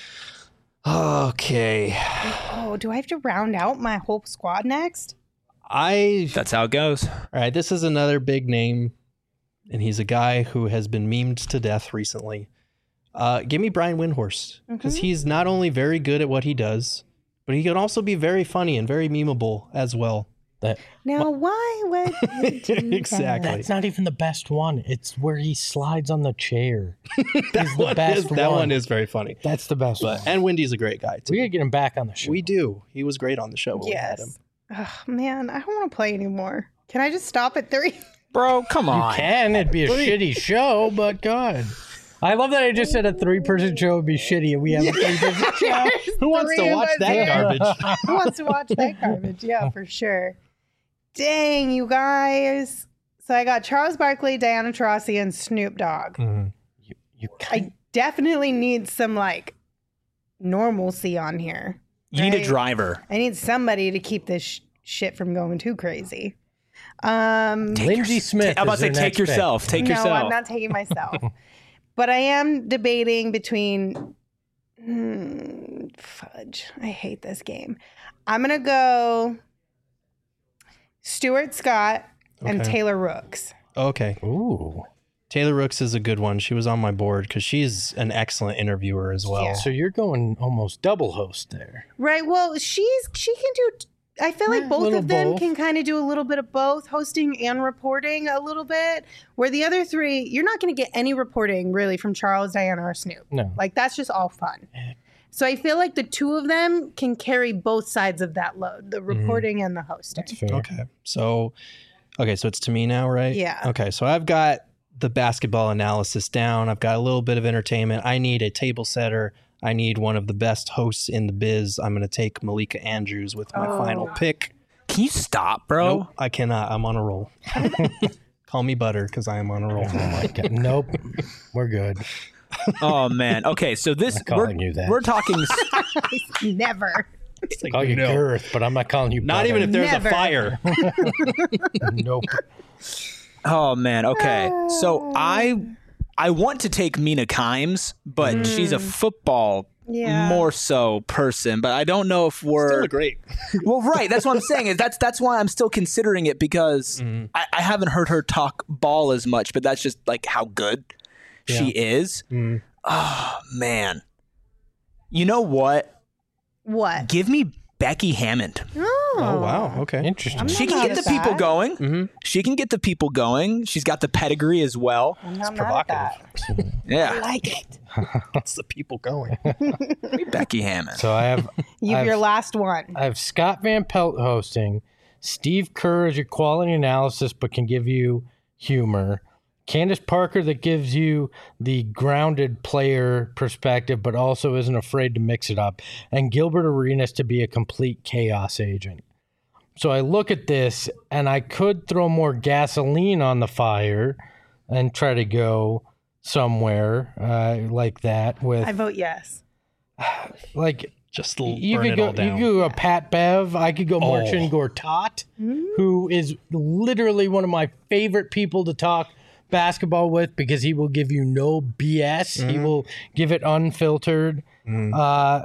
Okay. Oh, do I have to round out my whole squad next? I That's how it goes. All right, this is another big name, and he's a guy who has been memed to death recently. Uh, give me Brian Windhorst, because Mhm. he's not only very good at what he does, but he can also be very funny and very memeable as well. That Now, why would you do that? Exactly. That's not even the best one. It's where he slides on the chair. that He's the one best is, that one. one is very funny. That's the best But one. and Wendy's a great guy too. We got to get him back on the show. We do. He was great on the show when we had him. Yes. Oh, man, I don't want to play anymore. Can I just stop at three? Bro, come You on. can. It'd be a shitty show, but God. I love that I just said a three-person show would be shitty, and we have a three-person show. Who wants Three to of watch us that here. garbage? Who wants to watch that garbage? Yeah, for sure. Dang, you guys. So I got Charles Barkley, Diana Taurasi, and Snoop Dogg. Mhm. You, you kind I definitely need some like normalcy on here. You need a Right. driver. I need somebody to keep this sh- shit from going too crazy. Um, Lindsey Smith. I'm about is to say, their take next pick. yourself. Take no, yourself. I'm not taking myself. But I am debating between. Hmm, fudge. I hate this game. I'm going to go Stuart Scott and Okay. Taylor Rooks. Okay. Ooh. Taylor Rooks is a good one. She was on my board because she's an excellent interviewer as well. Yeah. So you're going almost double host there. Right. Well, she's she can do. I feel like Yeah, both little of them both. can kind of do a little bit of both, hosting and reporting a little bit. Where the other three, you're not going to get any reporting really from Charles, Diana, or Snoop. No. Like that's just all fun. So I feel like the two of them can carry both sides of that load, the reporting and the hosting. That's fair. Okay. So, okay, so it's to me now, right? Yeah. Okay, so I've got the basketball analysis down. I've got a little bit of entertainment. I need a table setter. I need one of the best hosts in the biz. I'm going to take Malika Andrews with my Oh. final pick. Can you stop, bro? Nope, I cannot. I'm on a roll. Call me Butter because I am on a roll. Oh my God. Nope. We're good. Oh man. Okay, so this I'm calling we're, you that. we're talking. Never. It's like, Call you no. Girth, but I'm not calling you. Not Butter. even if there's Never. a fire. Nope. Oh man. Okay, so I I want to take Mina Kimes, but Mm. she's a football Yeah. more so person. But I don't know if we're Still great. well, right. That's what I'm saying. Is that's that's why I'm still considering it because Mm-hmm. I, I haven't heard her talk ball as much, but that's just like how good she is. Mm-hmm. Oh man. You know what? What? Give me Becky Hammond. Oh, Oh wow. Okay. Interesting. I'm She not can mad get at the people that. going. Mhm. She can get the people going. She's got the pedigree as well. I'm not mad at provocative. that. I Yeah. like it. That's the people going. Becky Hammond. So I have You have I've- your last one. I have Scott Van Pelt hosting. Steve Kerr is your quality analysis, but can give you humor. Candace Parker that gives you the grounded player perspective, but also isn't afraid to mix it up. And Gilbert Arenas to be a complete chaos agent. So I look at this and I could throw more gasoline on the fire and try to go somewhere uh, like that with I vote yes. like Just l- you burn could it go all down. you could go a Pat Bev. I could go Oh. Marcin Gortat, who is literally one of my favorite people to talk basketball with because he will give you no B S. He will give it unfiltered. Uh,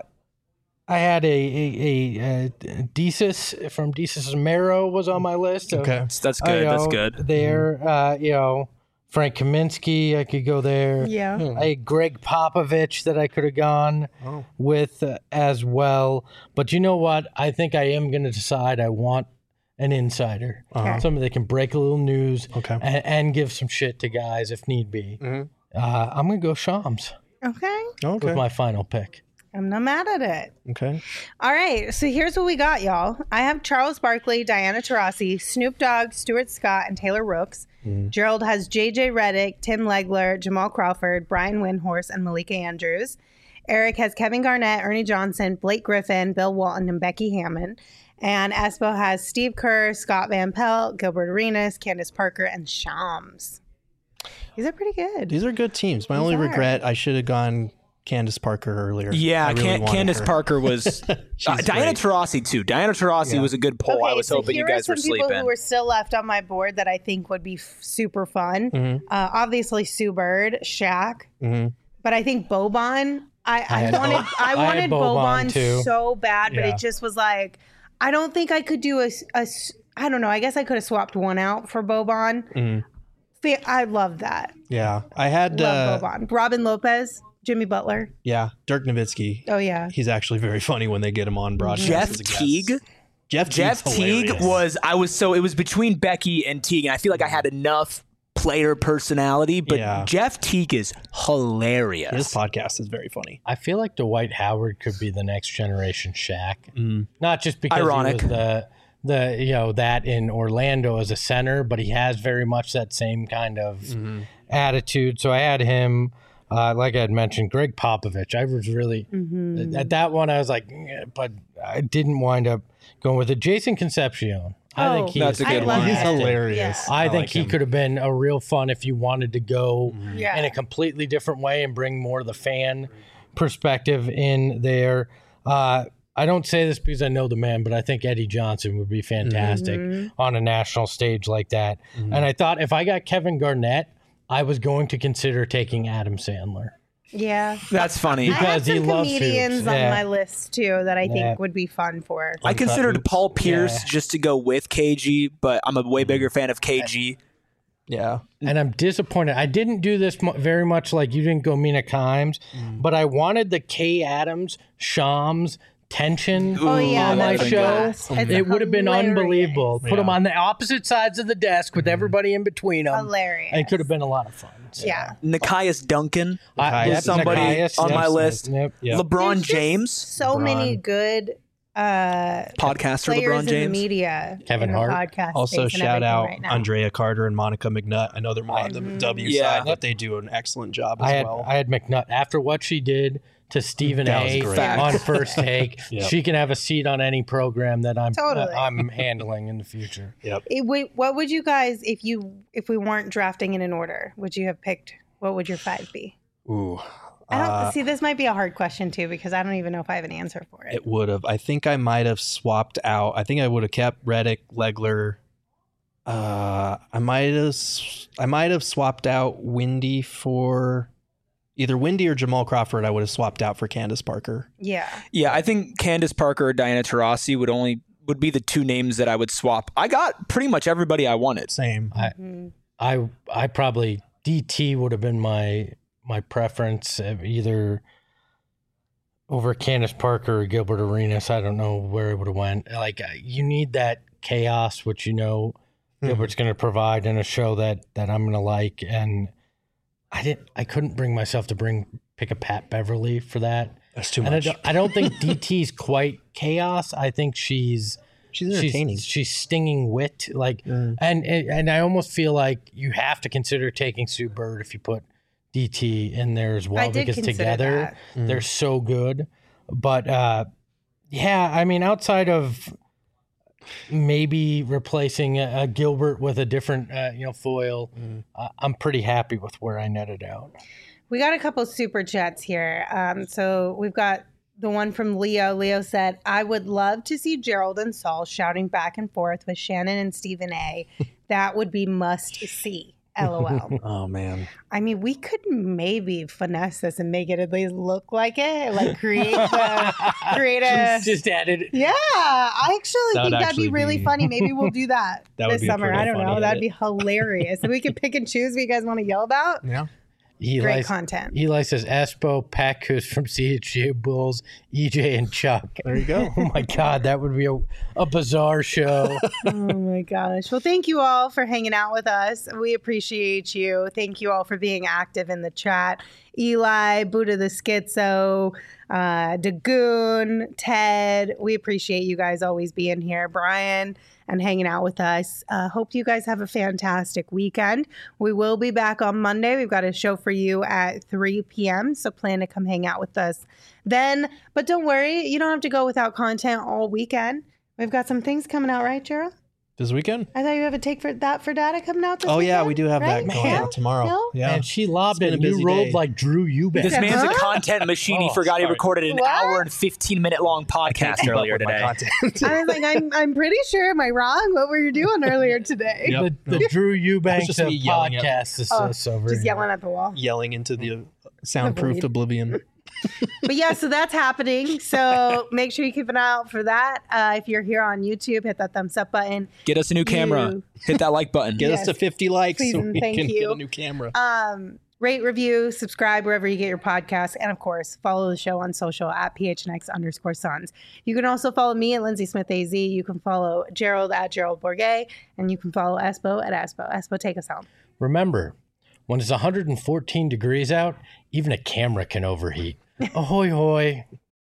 I had a a, a, a Desus from Desus Mero was on my list. of- Okay. That's uh, you good. That's know, good. There, uh, you know, Frank Kaminsky, I could go there. Yeah. I had Greg Popovich that I could have gone Oh. with uh, as well. But you know what? I think I am going to decide I want an insider, Okay. somebody that can break a little news Okay. and, and give some shit to guys if need be. Mhm. Uh, I'm going to go Shams Okay. Okay. with my final pick. I'm not mad at it. okay. All right, so here's what we got, y'all. I have Charles Barkley, Diana Taurasi, Snoop Dogg, Stuart Scott, and Taylor Rooks. Gerald has J J Redick, Tim Legler, Jamal Crawford, Brian Windhorst, and Malika Andrews. Eric has Kevin Garnett, Ernie Johnson, Blake Griffin, Bill Walton, and Becky Hammond. And Espo has Steve Kerr, Scott Van Pelt, Gilbert Arenas, Candace Parker, and Shams. These are pretty good. These are good teams. My These only are. regret, I should have gone Candace Parker earlier. Yeah, I really Can- wanted Candace her. Parker was uh, She's Diana great. Taurasi too. Diana Taurasi Yeah. was a good poll. I was hoping you here guys are were some people sleeping. who were still left on my board that I think would be f- super fun. Mhm. Uh, obviously, Sue Bird, Shaq, Mhm. but I think Boban. I, I, had wanted Bo- I I had wanted Boban, Boban, too. so bad, but Yeah. it just was like I don't think I could do a, s- a s- I don't know. I guess I could have swapped one out for Boban. Mhm. Fa- I love that. Yeah. I had, Love uh, Boban. Robin Lopez, Jimmy Butler. yeah, Dirk Nowitzki. Oh yeah. He's actually very funny when they get him on broadcast. Jeff as a guest. Teague. Jeff, Jeff Teague's Teague hilarious. was I was so it was between Becky and Teague, and I feel like I had enough player personality, but Yeah. Jeff Teague is hilarious. His podcast is very funny. I feel like Dwight Howard could be the next generation Shaq. Mm. Not just because Ironic. he was the the you know that in Orlando as a center, but he has very much that same kind of Mm-hmm. attitude. So I had him, uh, like I had mentioned, Greg Popovich. I was really Mm-hmm. at that one. I was like, "Eh," but I didn't wind up going with it. Jason Concepcion. I think Oh, he That's is a good I love one. He's it. hilarious. Yeah. I, think like he him. could have been a real fun if you wanted to go Yeah. in a completely different way and bring more of the fan perspective in there. Uh, I don't say this because I know the man, but I think Eddie Johnson would be fantastic Mm-hmm. on a national stage like that. And I thought if I got Kevin Garnett, I was going to consider taking Adam Sandler. Yeah. That's funny. I have Because he some loves comedians hoops. on Yeah. my list too that I think Yeah. would be fun for. I considered Oops. Paul Pierce Yeah. just to go with K G, but I'm a way bigger fan of K G. Yeah. And I'm disappointed. I didn't do this mu- very much like you didn't go Mina Kimes, but I wanted the Kay Adams, Shams tension Oh yeah, on my that's show. class. It's It would have been hilarious. unbelievable. Put them on the opposite sides of the desk with everybody in between them. Hilarious. And it could have been a lot of fun. So, Yeah. Nikias Duncan I, Nikias was somebody Nikias, on yep, my list. Yep. Yep. LeBron There's just James, So many LeBron. good uh, podcaster players LeBron in the James. media. Kevin in the Hart. podcast Also, space and shout everything out right now. Andrea Carter and Monica McNutt. I know they're more on the W Yeah. side, but they do an excellent job as I had well. I had McNutt after what she did to Stephen That was A. great. on First Take. Yep. She can have a seat on any program that I'm Totally. uh, I'm handling in the future. Yep. It- wait, what would you guys, if you if we weren't drafting in an order, would you have picked? What would your five be? Ooh. I don't Uh, see. This might be a hard question too because I don't even know if I have an answer for it. It would have. I think I might have swapped out. I think I would have kept Reddick, Legler. Uh, I might have. s- I might have swapped out Windy for either Windy or Jamal Crawford. I would have swapped out for Candace Parker. Yeah. Yeah, I think Candace Parker or Diana Taurasi would only would be the two names that I would swap. I got pretty much everybody I wanted. Same. I Mhm. I I probably D T would have been my my preference, uh, either over Candace Parker or Gilbert Arenas. I don't know where it would have went. Like uh, you need that chaos, which you know Gilbert's going to provide in a show that that I'm going to like. And I didn't. I couldn't bring myself to bring pick a Pat Beverly for that. That's too And I much. don't, I don't think D T's quite chaos. I think she's She's entertaining. She's, she's stinging wit, like, Mm. and and I almost feel like you have to consider taking Sue Bird if you put D T in there as well, I did because consider together that. Mm. they're so good. But uh, yeah, I mean, outside of maybe replacing a, a Gilbert with a different, uh, you know, foil, Mm. uh, I'm pretty happy with where I netted out. We got a couple super chats here. Um, so we've got the one from Leo. Leo said, I would love to see Gerald and Saul shouting back and forth with Shannon and Stephen A. That would be must see. LOL. Oh man. I mean, we could maybe finesse this and make it at least look like it. Like create the, create a. Just, just added. Yeah, I actually That would think that'd be actually really be- funny. Maybe we'll do that, That would this be summer. pretty I don't know. funny That'd edit. be hilarious. So we could pick and choose what you guys want to yell about. Yeah. Eli, Great content. Eli says Espo, Packus from C H G A Bulls, E J and Chuck. There you go. Oh my God, that would be a, a bizarre show. Oh my gosh. Well, thank you all for hanging out with us. We appreciate you. Thank you all for being active in the chat. Eli, Buddha the Schizo, uh, Dagoon, Ted. We appreciate you guys always being here. Brian and hanging out with us. Uh, hope you guys have a fantastic weekend. We will be back on Monday. We've got a show for you at three p.m. So plan to come hang out with us then. But don't worry, you don't have to go without content all weekend. We've got some things coming out, right, Gerald? This weekend? I thought you have a take for that for data coming out this Oh yeah, weekend, we do have right? that going Yeah? out tomorrow. No? Yeah. And she lobbed It's it been and a you busy rolled day. like Drew Eubank. This man's a Huh? content machine. He Oh, forgot he sorry. recorded an What? hour and fifteen minute long podcast Keep up earlier with my today. content. I was like, I'm, I'm pretty sure. Am I wrong? What were you doing earlier today? Yep. The, the Drew Eubanks just of me yelling at- podcast is Oh, uh, so very Just yelling at the wall. Yelling into the soundproofed Avoid. oblivion. But yeah, so that's happening. So make sure you keep an eye out for that. Uh, if you're here on YouTube, hit that thumbs up button. Get us a new camera. You- Hit that like button. Get Yes. us to fifty likes Please so and we thank can you. get a new camera. Um, rate, review, subscribe wherever you get your podcasts, and of course, follow the show on social at phnx underscore sons. You can also follow me at Lindsay Smith A Z. You can follow Gerald at Gerald Bourget, and you can follow Espo at Espo. Espo, take us home. Remember, when it's one hundred fourteen degrees out, even a camera can overheat. Ahoy, hoy.